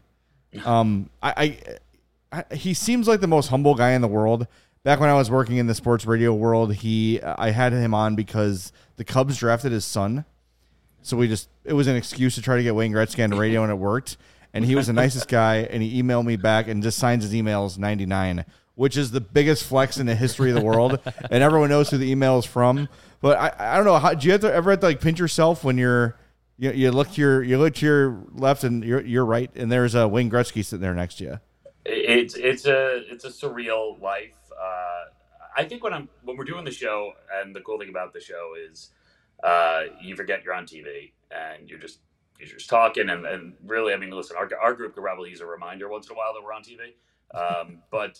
He seems like the most humble guy in the world. Back when I was working in the sports radio world, I had him on because the Cubs drafted his son. So it was an excuse to try to get Wayne Gretzky on the radio, and it worked. And he was the nicest guy, and he emailed me back and just signs his emails 99, which is the biggest flex in the history of the world. And everyone knows who the email is from. But I don't know, do you ever have to pinch yourself when you look to your left and you're right, and there's a Wayne Gretzky sitting there next to you? It's a surreal life. I think when we're doing the show, and the cool thing about the show is you forget you're on TV and you're just talking, and really, I mean, listen, our group could probably use a reminder once in a while that we're on TV, but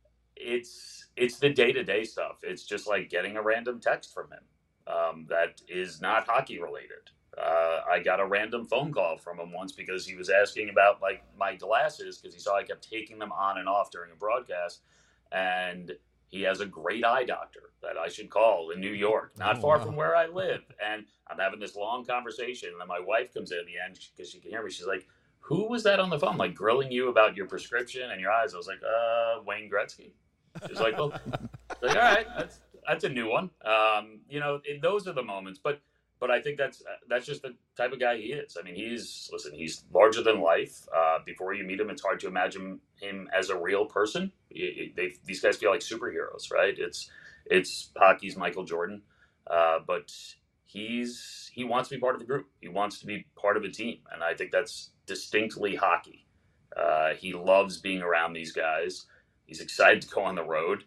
it's the day-to-day stuff. It's just like getting a random text from him that is not hockey related. I got a random phone call from him once because he was asking about like my glasses, because he saw I kept taking them on and off during a broadcast, and he has a great eye doctor that I should call in New York, not far from where I live. And I'm having this long conversation, and then my wife comes in at the end because she can hear me. She's like, who was that on the phone, like grilling you about your prescription and your eyes? I was like, Wayne Gretzky. She's like, well, like, all right, that's a new one. Those are the moments, but I think that's just the type of guy he is. I mean, he's larger than life. Before you meet him, it's hard to imagine him as a real person. These guys feel like superheroes, right? It's hockey's Michael Jordan, but he wants to be part of the group. He wants to be part of a team, and I think that's distinctly hockey. He loves being around these guys. He's excited to go on the road,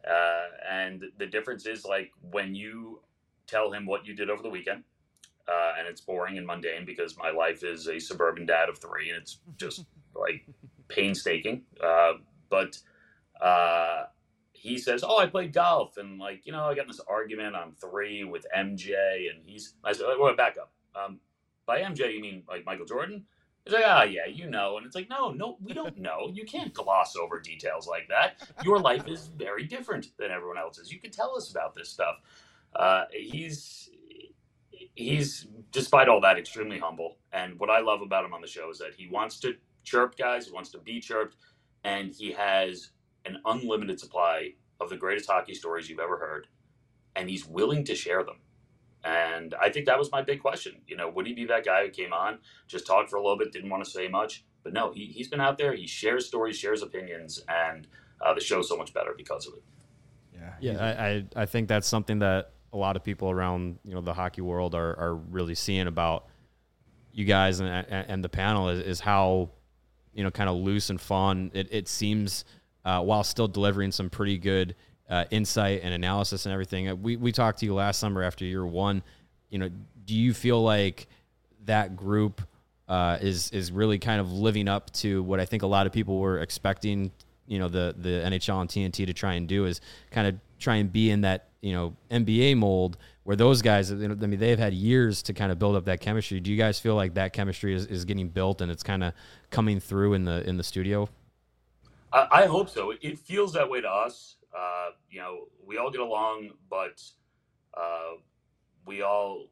and the difference is, like, when you tell him what you did over the weekend, and it's boring and mundane because my life is a suburban dad of 3, and it's just like painstaking. But he says, "Oh, I played golf, and I got in this argument on 3 with MJ," and I said, "Wait, back up. By MJ, you mean like Michael Jordan?" He's like, yeah, and it's like, no, we don't know. You can't gloss over details like that. Your life is very different than everyone else's. You can tell us about this stuff. He's despite all that extremely humble. And what I love about him on the show is that he wants to chirp guys, he wants to be chirped, and he has an unlimited supply of the greatest hockey stories you've ever heard, and he's willing to share them. And I think that was my big question. Would he be that guy who came on, just talked for a little bit, didn't want to say much? But no, he's been out there. He shares stories, shares opinions, and the show's so much better because of it. Yeah, I think that's something that a lot of people around the hockey world are really seeing about you guys and the panel is how kind of loose and fun it seems while still delivering some pretty good insight and analysis and everything. We talked to you last summer after year one. Do you feel like that group is really kind of living up to what I think a lot of people were expecting, the NHL and TNT to try and do, is kind of try and be in that, NBA mold where those guys, they've had years to kind of build up that chemistry. Do you guys feel like that chemistry is getting built and it's kind of coming through in the studio? I hope so. It feels that way to us. We all get along, but we all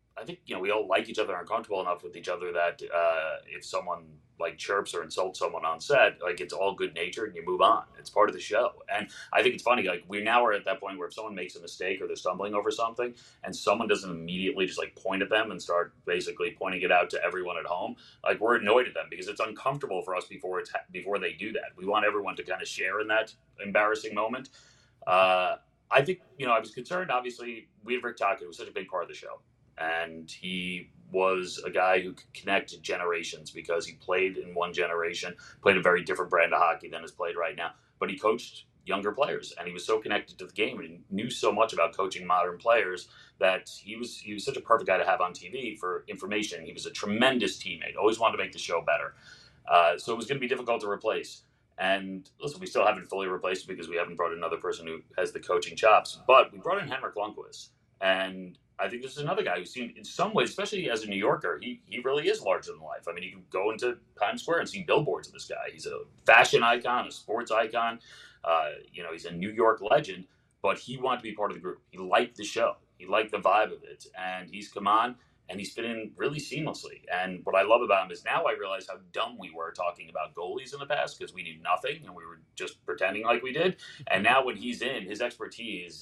like each other and are comfortable enough with each other that if someone chirps or insults someone on set, it's all good natured and you move on. It's part of the show. And I think it's funny, we now are at that point where if someone makes a mistake or they're stumbling over something and someone doesn't immediately just point at them and start basically pointing it out to everyone at home, we're annoyed at them because it's uncomfortable for us before they do that. We want everyone to kind of share in that embarrassing moment. I think, I was concerned, obviously, we had Rick Tocchet, who was such a big part of the show. And he was a guy who could connect generations because he played in one generation, played a very different brand of hockey than is played right now. But he coached younger players, and he was so connected to the game and he knew so much about coaching modern players that he was such a perfect guy to have on TV for information. He was a tremendous teammate, always wanted to make the show better. So it was going to be difficult to replace. And listen, we still haven't fully replaced it because we haven't brought another person who has the coaching chops. But we brought in Henrik Lundqvist, and I think this is another guy who seemed, in some ways, especially as a New Yorker, he really is larger than life. I mean, you can go into Times Square and see billboards of this guy. He's a fashion icon, a sports icon. He's a New York legend, but he wanted to be part of the group. He liked the show. He liked the vibe of it. And he's come on, and he's fit in really seamlessly. And what I love about him is now I realize how dumb we were talking about goalies in the past because we knew nothing and we were just pretending like we did. And now when he's in, his expertise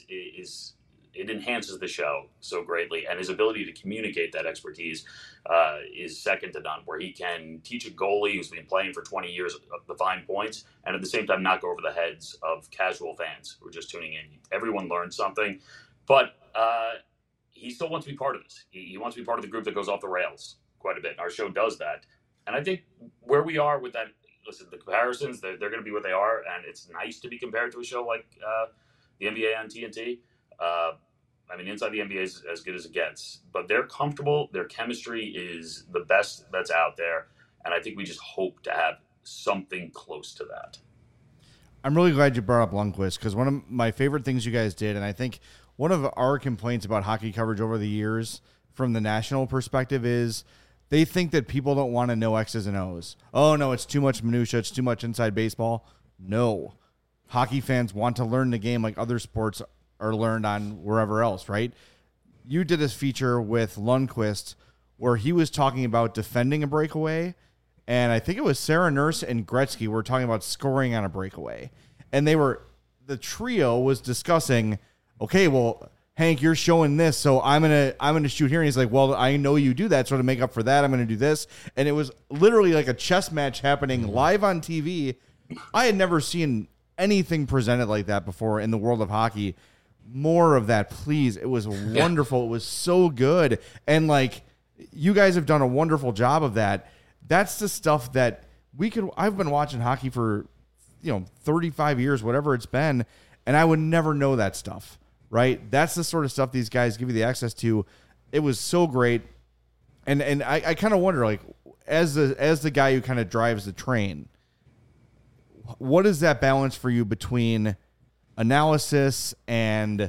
it enhances the show so greatly, and his ability to communicate that expertise is second to none, where he can teach a goalie who's been playing for 20 years the fine points, and at the same time not go over the heads of casual fans who are just tuning in. Everyone learns something, but he still wants to be part of this. He wants to be part of the group that goes off the rails quite a bit. Our show does that. And I think where we are with that, listen, the comparisons, they're going to be what they are, and it's nice to be compared to a show like the NBA on TNT. Inside the NBA is as good as it gets, but they're comfortable. Their chemistry is the best that's out there, and I think we just hope to have something close to that. I'm really glad you brought up Lundqvist because one of my favorite things you guys did, and I think one of our complaints about hockey coverage over the years from the national perspective is they think that people don't want to know X's and O's. Oh, no, it's too much minutia. It's too much inside baseball. No. Hockey fans want to learn the game like other sports are learned on wherever else, right? You did this feature with Lundqvist where he was talking about defending a breakaway, and I think it was Sarah Nurse and Gretzky were talking about scoring on a breakaway. And the trio was discussing, okay, well, Hank, you're showing this, so I'm gonna shoot here. And he's like, well, I know you do that, so to make up for that, I'm gonna do this. And it was literally like a chess match happening live on TV. I had never seen anything presented like that before in the world of hockey. More of that, please. It was wonderful. It was so good. And you guys have done a wonderful job of that. That's the stuff that I've been watching hockey for, 35 years, whatever it's been, and I would never know that stuff, right? That's the sort of stuff these guys give you the access to. It was so great. And I kind of wonder, as the guy who kind of drives the train, what is that balance for you between analysis and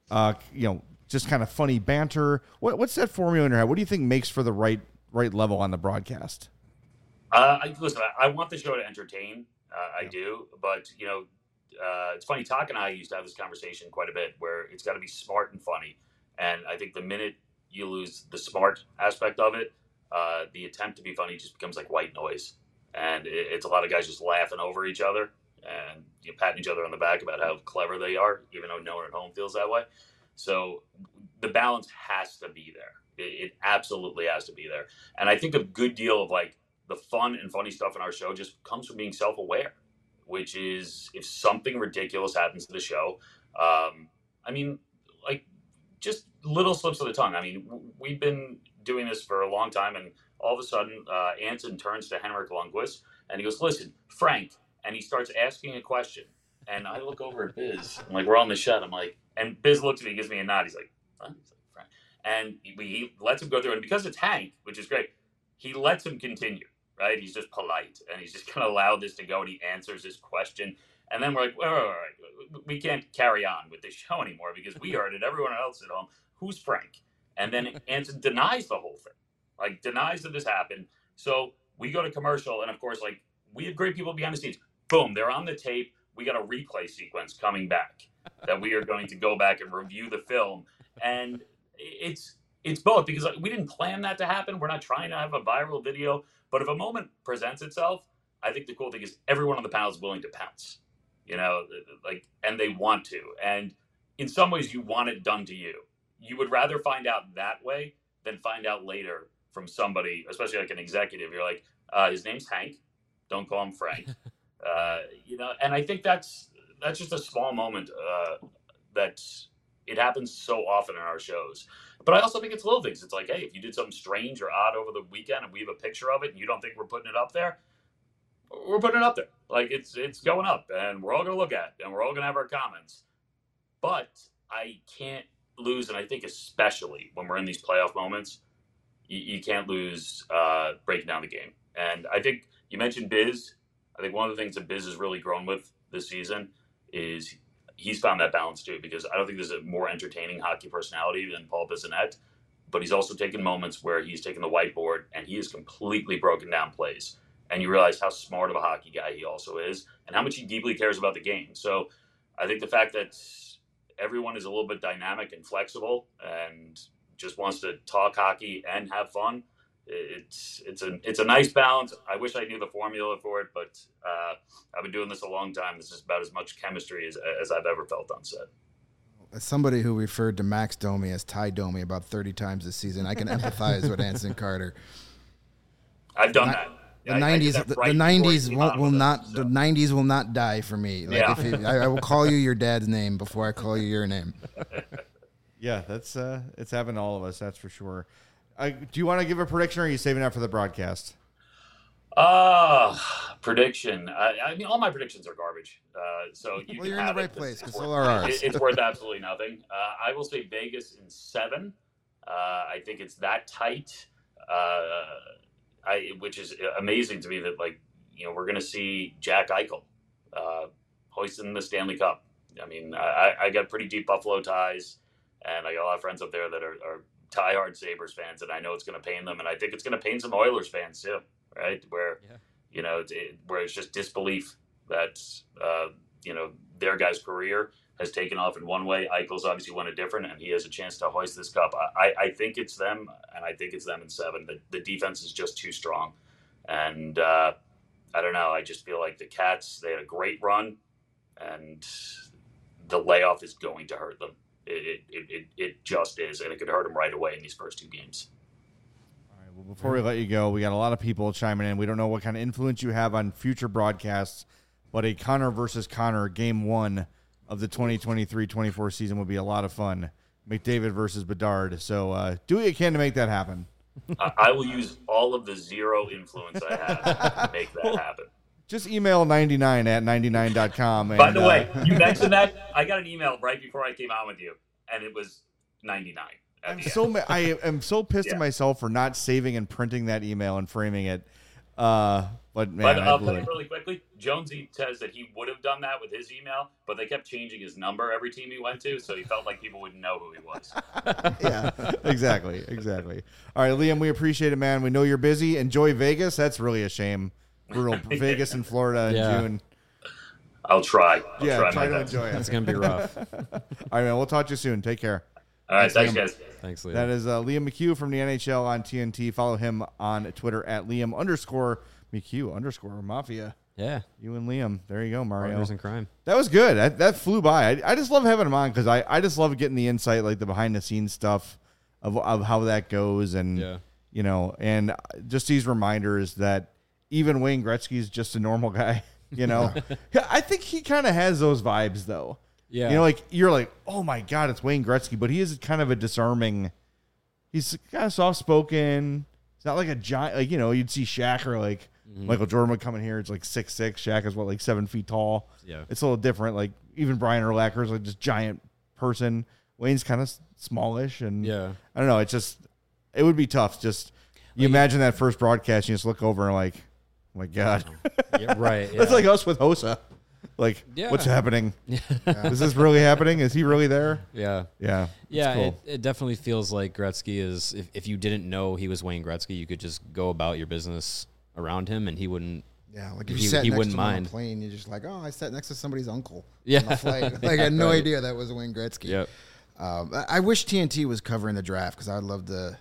just kind of funny banter? What's that formula in your head? What do you think makes for the right level on the broadcast? Listen, I want the show to entertain. I do, but it's funny. Talk and I used to have this conversation quite a bit, where it's got to be smart and funny. And I think the minute you lose the smart aspect of it, the attempt to be funny just becomes like white noise. And it's a lot of guys just laughing over each other and patting each other on the back about how clever they are, even though no one at home feels that way. So the balance has to be there. It absolutely has to be there. And I think a good deal of like the fun and funny stuff in our show just comes from being self-aware, which is if something ridiculous happens to the show, just little slips of the tongue. I mean, we've been doing this for a long time, and all of a sudden, Anson turns to Henrik Lundqvist, and he goes, "Listen, Frank," and he starts asking a question. And I look over at Biz, I'm like, we're on the shed. I'm like, and Biz looks at me, gives me a nod. He's like, huh? He's like, Frank. And he lets him go through. And because it's Hank, which is great, he lets him continue, right? He's just polite, and he's just going to allow this to go, and he answers his question. And then we're like, all right, we can't carry on with this show anymore because we heard it. Everyone else at home, who's Frank? And then Anson denies the whole thing, like denies that this happened. So we go to commercial, and of course, like we have great people behind the scenes. Boom, they're on the tape. We got a replay sequence coming back that we are going to go back and review the film. And it's both because we didn't plan that to happen. We're not trying to have a viral video. But if a moment presents itself, I think the cool thing is everyone on the panel is willing to pounce, and they want to. And in some ways, you want it done to you. You would rather find out that way than find out later from somebody, especially like an executive. You're like, his name's Hank. Don't call him Frank. And I think that's just a small moment that it happens so often in our shows. But I also think it's little things. It's like, hey, if you did something strange or odd over the weekend and we have a picture of it and you don't think we're putting it up there, we're putting it up there. Like it's going up and we're all going to look at it and we're all going to have our comments. But I can't lose, and I think especially when we're in these playoff moments, you can't lose breaking down the game. And I think you mentioned Biz. I think one of the things that Biz has really grown with this season is he's found that balance too, because I don't think there's a more entertaining hockey personality than Paul Bissonnette, but he's also taken moments where he's taken the whiteboard and he has completely broken down plays. And you realize how smart of a hockey guy he also is and how much he deeply cares about the game. So I think the fact that everyone is a little bit dynamic and flexible and just wants to talk hockey and have fun, it's a nice balance. I wish I knew the formula for it, but I've been doing this a long time. This is about as much chemistry as I've ever felt on set. As somebody who referred to Max Domi as Ty Domi about 30 times this season, I can empathize with Anson Carter. I've done that. The 90s will not die for me. I will call you your dad's name before I call you your name. Yeah, that's it's happened to all of us, that's for sure. Do you want to give a prediction, or are you saving that for the broadcast? Prediction. I mean, all my predictions are garbage. So you're in the right place because so are ours. It's worth absolutely nothing. I will say Vegas in 7. I think it's that tight. Which is amazing to me that we're going to see Jack Eichel hoisting the Stanley Cup. I mean, I got pretty deep Buffalo ties, and I got a lot of friends up there that are diehard Sabres fans, and I know it's going to pain them, and I think it's going to pain some Oilers fans too, right? Where where it's just disbelief that their guy's career has taken off in one way. Eichel's obviously went a different, and he has a chance to hoist this cup. I think it's them, and I think it's them in 7. The defense is just too strong, and I don't know. I just feel like the Cats, they had a great run, and the layoff is going to hurt them. It just is, and it could hurt them right away in these first 2 games. All right. Well, before we let you go, we got a lot of people chiming in. We don't know what kind of influence you have on future broadcasts, but a Connor versus Connor game 1 of the 2023-24 season would be a lot of fun. McDavid versus Bedard. So do what you can to make that happen. I will use all of the zero influence I have to make that happen. Just email 99@99.com. By the way, you mentioned that. I got an email right before I came on with you, and it was 99. I am so pissed at myself for not saving and printing that email and framing it. But I'll tell you really quickly, Jonesy says that he would have done that with his email, but they kept changing his number every team he went to, so he felt like people wouldn't know who he was. Yeah, exactly. All right, Liam, we appreciate it, man. We know you're busy. Enjoy Vegas. That's really a shame. Brutal. Vegas in Florida in June. I'll try. Try to enjoy it. It's going to be rough. All right, man. We'll talk to you soon. Take care. All right, thanks guys. Thanks, Liam. That is Liam McHugh from the NHL on TNT. Follow him on Twitter at Liam_McHugh_Mafia. Yeah. You and Liam. There you go, Mario. Partners in crime. That was good. That flew by. I just love having him on because I just love getting the insight, like the behind the scenes stuff of how that goes, and and just these reminders that even Wayne Gretzky is just a normal guy. I think he kind of has those vibes though. Yeah. Like you're like, oh my God, it's Wayne Gretzky, but he is kind of a disarming. He's kind of soft spoken. It's not like a giant, like you'd see Shaq or like Michael Jordan would come in here. It's like 6'6". Shaq is 7 feet tall. Yeah, it's a little different. Like even Brian Urlacher is like this giant person. Wayne's kind of smallish, and I don't know. It would be tough. Just imagine that first broadcast, you just look over and like, oh my God, yeah, right. That's like us with Hossa. Like, what's happening? Is this really happening? Is he really there? Yeah. Cool. It definitely feels like Gretzky is. If you didn't know he was Wayne Gretzky, you could just go about your business around him, and he wouldn't. Yeah, like if you sat next to him on a plane, you're just like, oh, I sat next to somebody's uncle. On the flight. Like I had no idea that was Wayne Gretzky. Yep. I wish TNT was covering the draft because I'd love to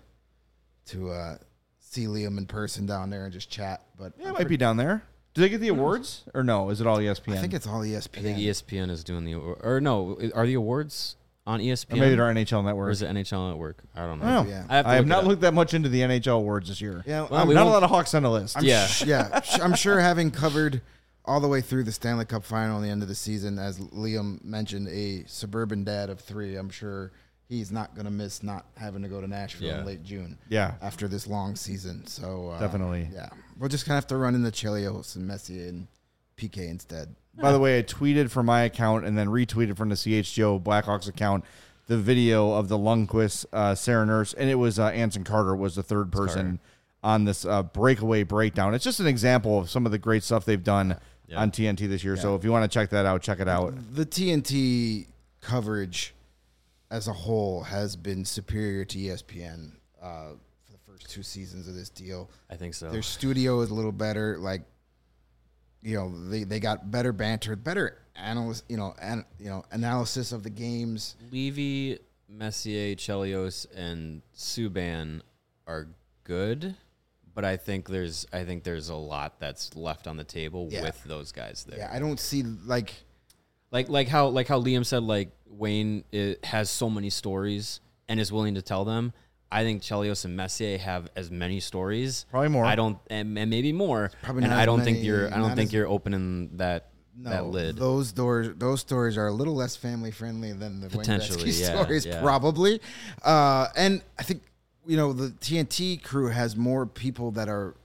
see Liam in person down there and just chat. But it might be down there. Do they get the awards or no? Is it all ESPN? I think it's all ESPN. I think ESPN is doing the or no? Are the awards on ESPN? Or maybe they're NHL Network. Or is it NHL Network? I don't know. Yeah. I have not looked that much into the NHL awards this year. Yeah, not a lot of Hawks on the list. I'm sure having covered all the way through the Stanley Cup final and the end of the season, as Liam mentioned, a suburban dad of 3, I'm sure he's not going to miss not having to go to Nashville in late June. After this long season. So definitely. Yeah. We'll just kind of have to run into Chelios and Messier and PK instead. By the way, I tweeted from my account and then retweeted from the CHGO Blackhawks account the video of the Lundqvist, Sarah Nurse, and it was Anson Carter was the third person on this breakaway breakdown. It's just an example of some of the great stuff they've done on TNT this year. So if you want to check that out, check it out. The TNT coverage as a whole has been superior to ESPN for the first 2 seasons of this deal. I think so. Their studio is a little better. Like, they got better banter, better analysis of the games. Levy, Messier, Chelios, and Subban are good, but I think there's a lot that's left on the table with those guys there. Yeah, I don't see like how Liam said, like Wayne has so many stories and is willing to tell them. I think Chelios and Messier have as many stories, probably more. I don't, and maybe more. Probably and not I don't as think many, you're. I don't think you're opening that lid. Those stories are a little less family friendly than the Wayne Gretzky stories, yeah. probably. And I think the TNT crew has more people that are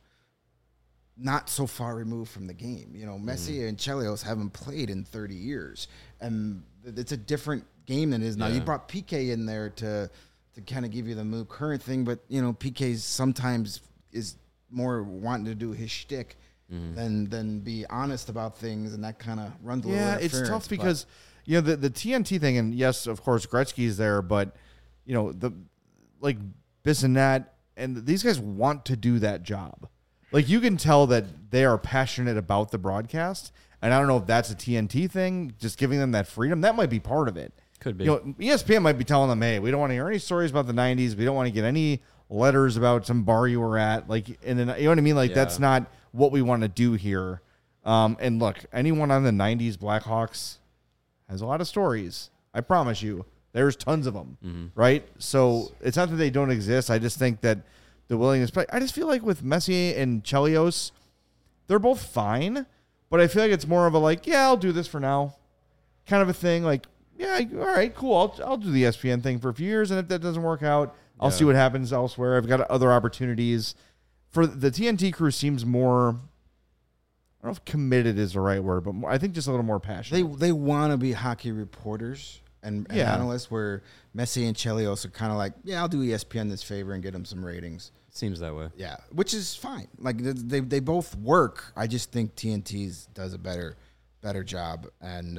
not so far removed from the game. Messier and Chelios haven't played in 30 years, and it's a different game than it is now. You brought PK in there to kind of give you the current thing, but PK sometimes is more wanting to do his shtick than be honest about things, and that kind of runs a little interference. It's tough because the TNT thing, and yes, of course, Gretzky's there, but the like Bissonnette and these guys want to do that job. Like you can tell that they are passionate about the broadcast, and I don't know if that's a TNT thing, just giving them that freedom. That might be part of it. Could be. ESPN might be telling them, hey, we don't want to hear any stories about the 90s. We don't want to get any letters about some bar you were at. Like, and then, you know what I mean? Like, that's not what we want to do here. And look, anyone on the 90s Blackhawks has a lot of stories. I promise you. There's tons of them, right? So it's not that they don't exist. I just think that the willingness. But I just feel like with Messier and Chelios, they're both fine. But I feel like it's more of a like, yeah, I'll do this for now kind of a thing. Like, yeah, all right, cool. I'll do the ESPN thing for a few years, and if that doesn't work out, I'll see what happens elsewhere. I've got other opportunities. For the TNT crew seems more, I don't know if committed is the right word, but I think just a little more passionate. They want to be hockey reporters and analysts, where Messier and Chelios are kind of like, yeah, I'll do ESPN this favor and get them some ratings. Seems that way. Yeah, which is fine. Like they both work. I just think TNT's does a better job, and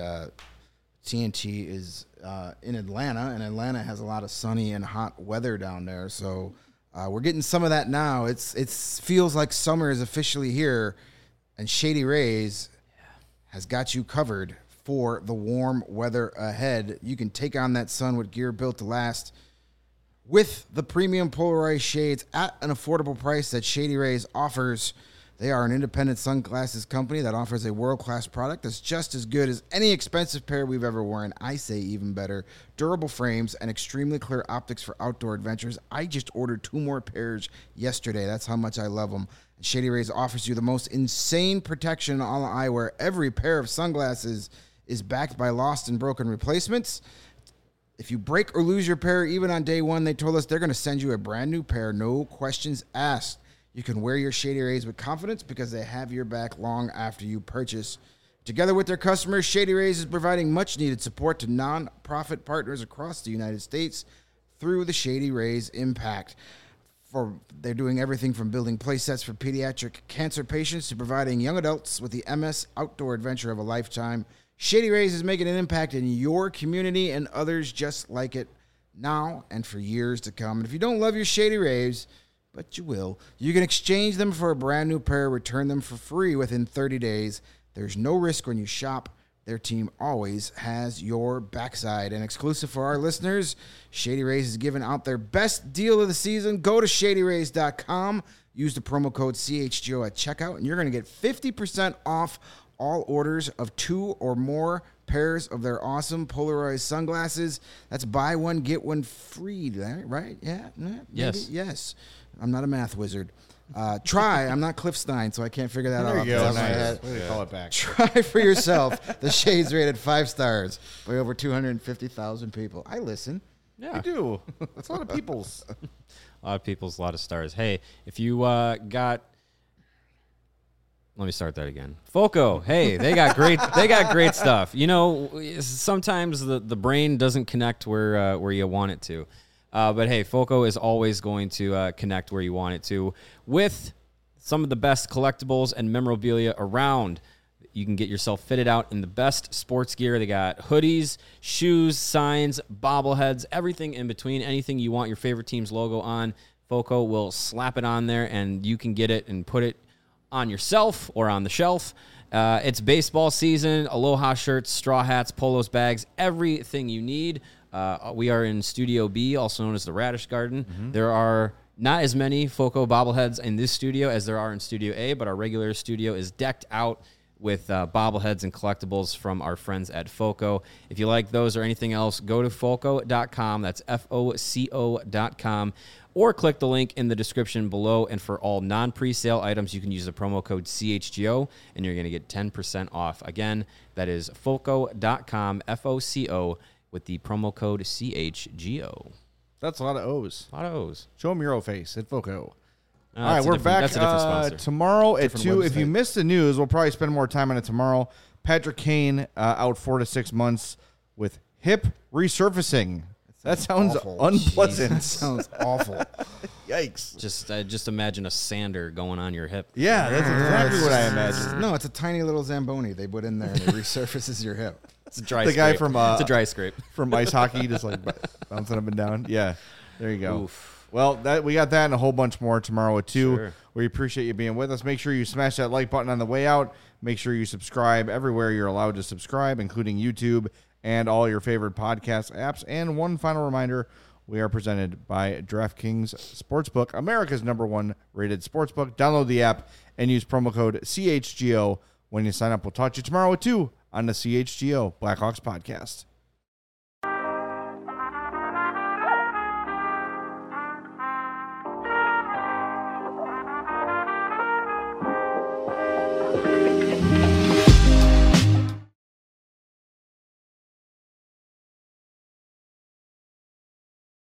TNT is in Atlanta, and Atlanta has a lot of sunny and hot weather down there. So we're getting some of that now. It feels like summer is officially here, and Shady Rays has got you covered for the warm weather ahead. You can take on that sun with gear built to last. with the premium polarized shades at an affordable price that Shady Rays offers. They are an independent sunglasses company that offers a world-class product that's just as good as any expensive pair we've ever worn. I say even better. Durable frames and extremely clear optics for outdoor adventures. I just ordered 2 more pairs yesterday. That's how much I love them. And Shady Rays offers you the most insane protection in all eyewear. Every pair of sunglasses is backed by lost and broken replacements. If you break or lose your pair, even on day 1, they told us they're going to send you a brand new pair, no questions asked. You can wear your Shady Rays with confidence because they have your back long after you purchase. Together with their customers, Shady Rays is providing much-needed support to non-profit partners across the United States through the Shady Rays Impact. They're doing everything from building play sets for pediatric cancer patients to providing young adults with the MS outdoor adventure of a lifetime. Shady Rays is making an impact in your community and others just like it now and for years to come. And if you don't love your Shady Rays, but you will, you can exchange them for a brand new pair, return them for free within 30 days. There's no risk when you shop. Their team always has your backside. And exclusive for our listeners, Shady Rays is giving out their best deal of the season. Go to ShadyRays.com. Use the promo code CHGO at checkout, and you're going to get 50% off all orders of 2 or more pairs of their awesome polarized sunglasses. That's buy one, get one free, right? Yeah? Maybe? Yes. Yes. I'm not a math wizard. I'm not Cliff Stein, so I can't figure that out. There you go. Off the top of my Nice. head. Way to call it back. Try for yourself. The Shades rated 5 stars by over 250,000 people. I listen. Yeah. You do. That's a lot of people's. A lot of people's, a lot of stars. Hey, if you got, let me start that again. Foco, hey, they got great stuff. You know, sometimes the brain doesn't connect where you want it to. But hey, Foco is always going to connect where you want it to with some of the best collectibles and memorabilia around. You can get yourself fitted out in the best sports gear. They got hoodies, shoes, signs, bobbleheads, everything in between. Anything you want your favorite team's logo on, Foco will slap it on there, and you can get it and put it on yourself or on the shelf. It's baseball season. Aloha shirts, straw hats, polos, bags, everything you need. We are in Studio B, also known as the Radish Garden. Mm-hmm. There are not as many Foco bobbleheads in this studio as there are in Studio A, but our regular studio is decked out with bobbleheads and collectibles from our friends at Foco. If you like those or anything else, go to Foco.com. That's FOCO.com. Or click the link in the description below. And for all non-presale items, you can use the promo code CHGO, and you're going to get 10% off. Again, that is Foco.com, FOCO, with the promo code CHGO. That's a lot of O's. A lot of O's. Show them your O face at Foco. All right, we're back That's a different sponsor. Tomorrow at 2. website. If you missed the news, we'll probably spend more time on it tomorrow. Patrick Kane out 4 to 6 months with hip resurfacing. That sounds awful. unpleasant. That sounds awful. Yikes. Just imagine a sander going on your hip. Yeah, that's exactly what I imagined. No, it's a tiny little Zamboni they put in there, and it resurfaces your hip. It's a dry The scrape. guy from it's a dry scrape. from ice hockey, just like bouncing up and down. Yeah, there you go. Oof. Well, we got that and a whole bunch more tomorrow at 2. Sure. We appreciate you being with us. Make sure you smash that like button on the way out. Make sure you subscribe everywhere you're allowed to subscribe, including YouTube and all your favorite podcast apps. And one final reminder, we are presented by DraftKings Sportsbook, America's #1 rated sportsbook. Download the app and use promo code CHGO when you sign up. We'll talk to you tomorrow at 2 on the CHGO Blackhawks podcast.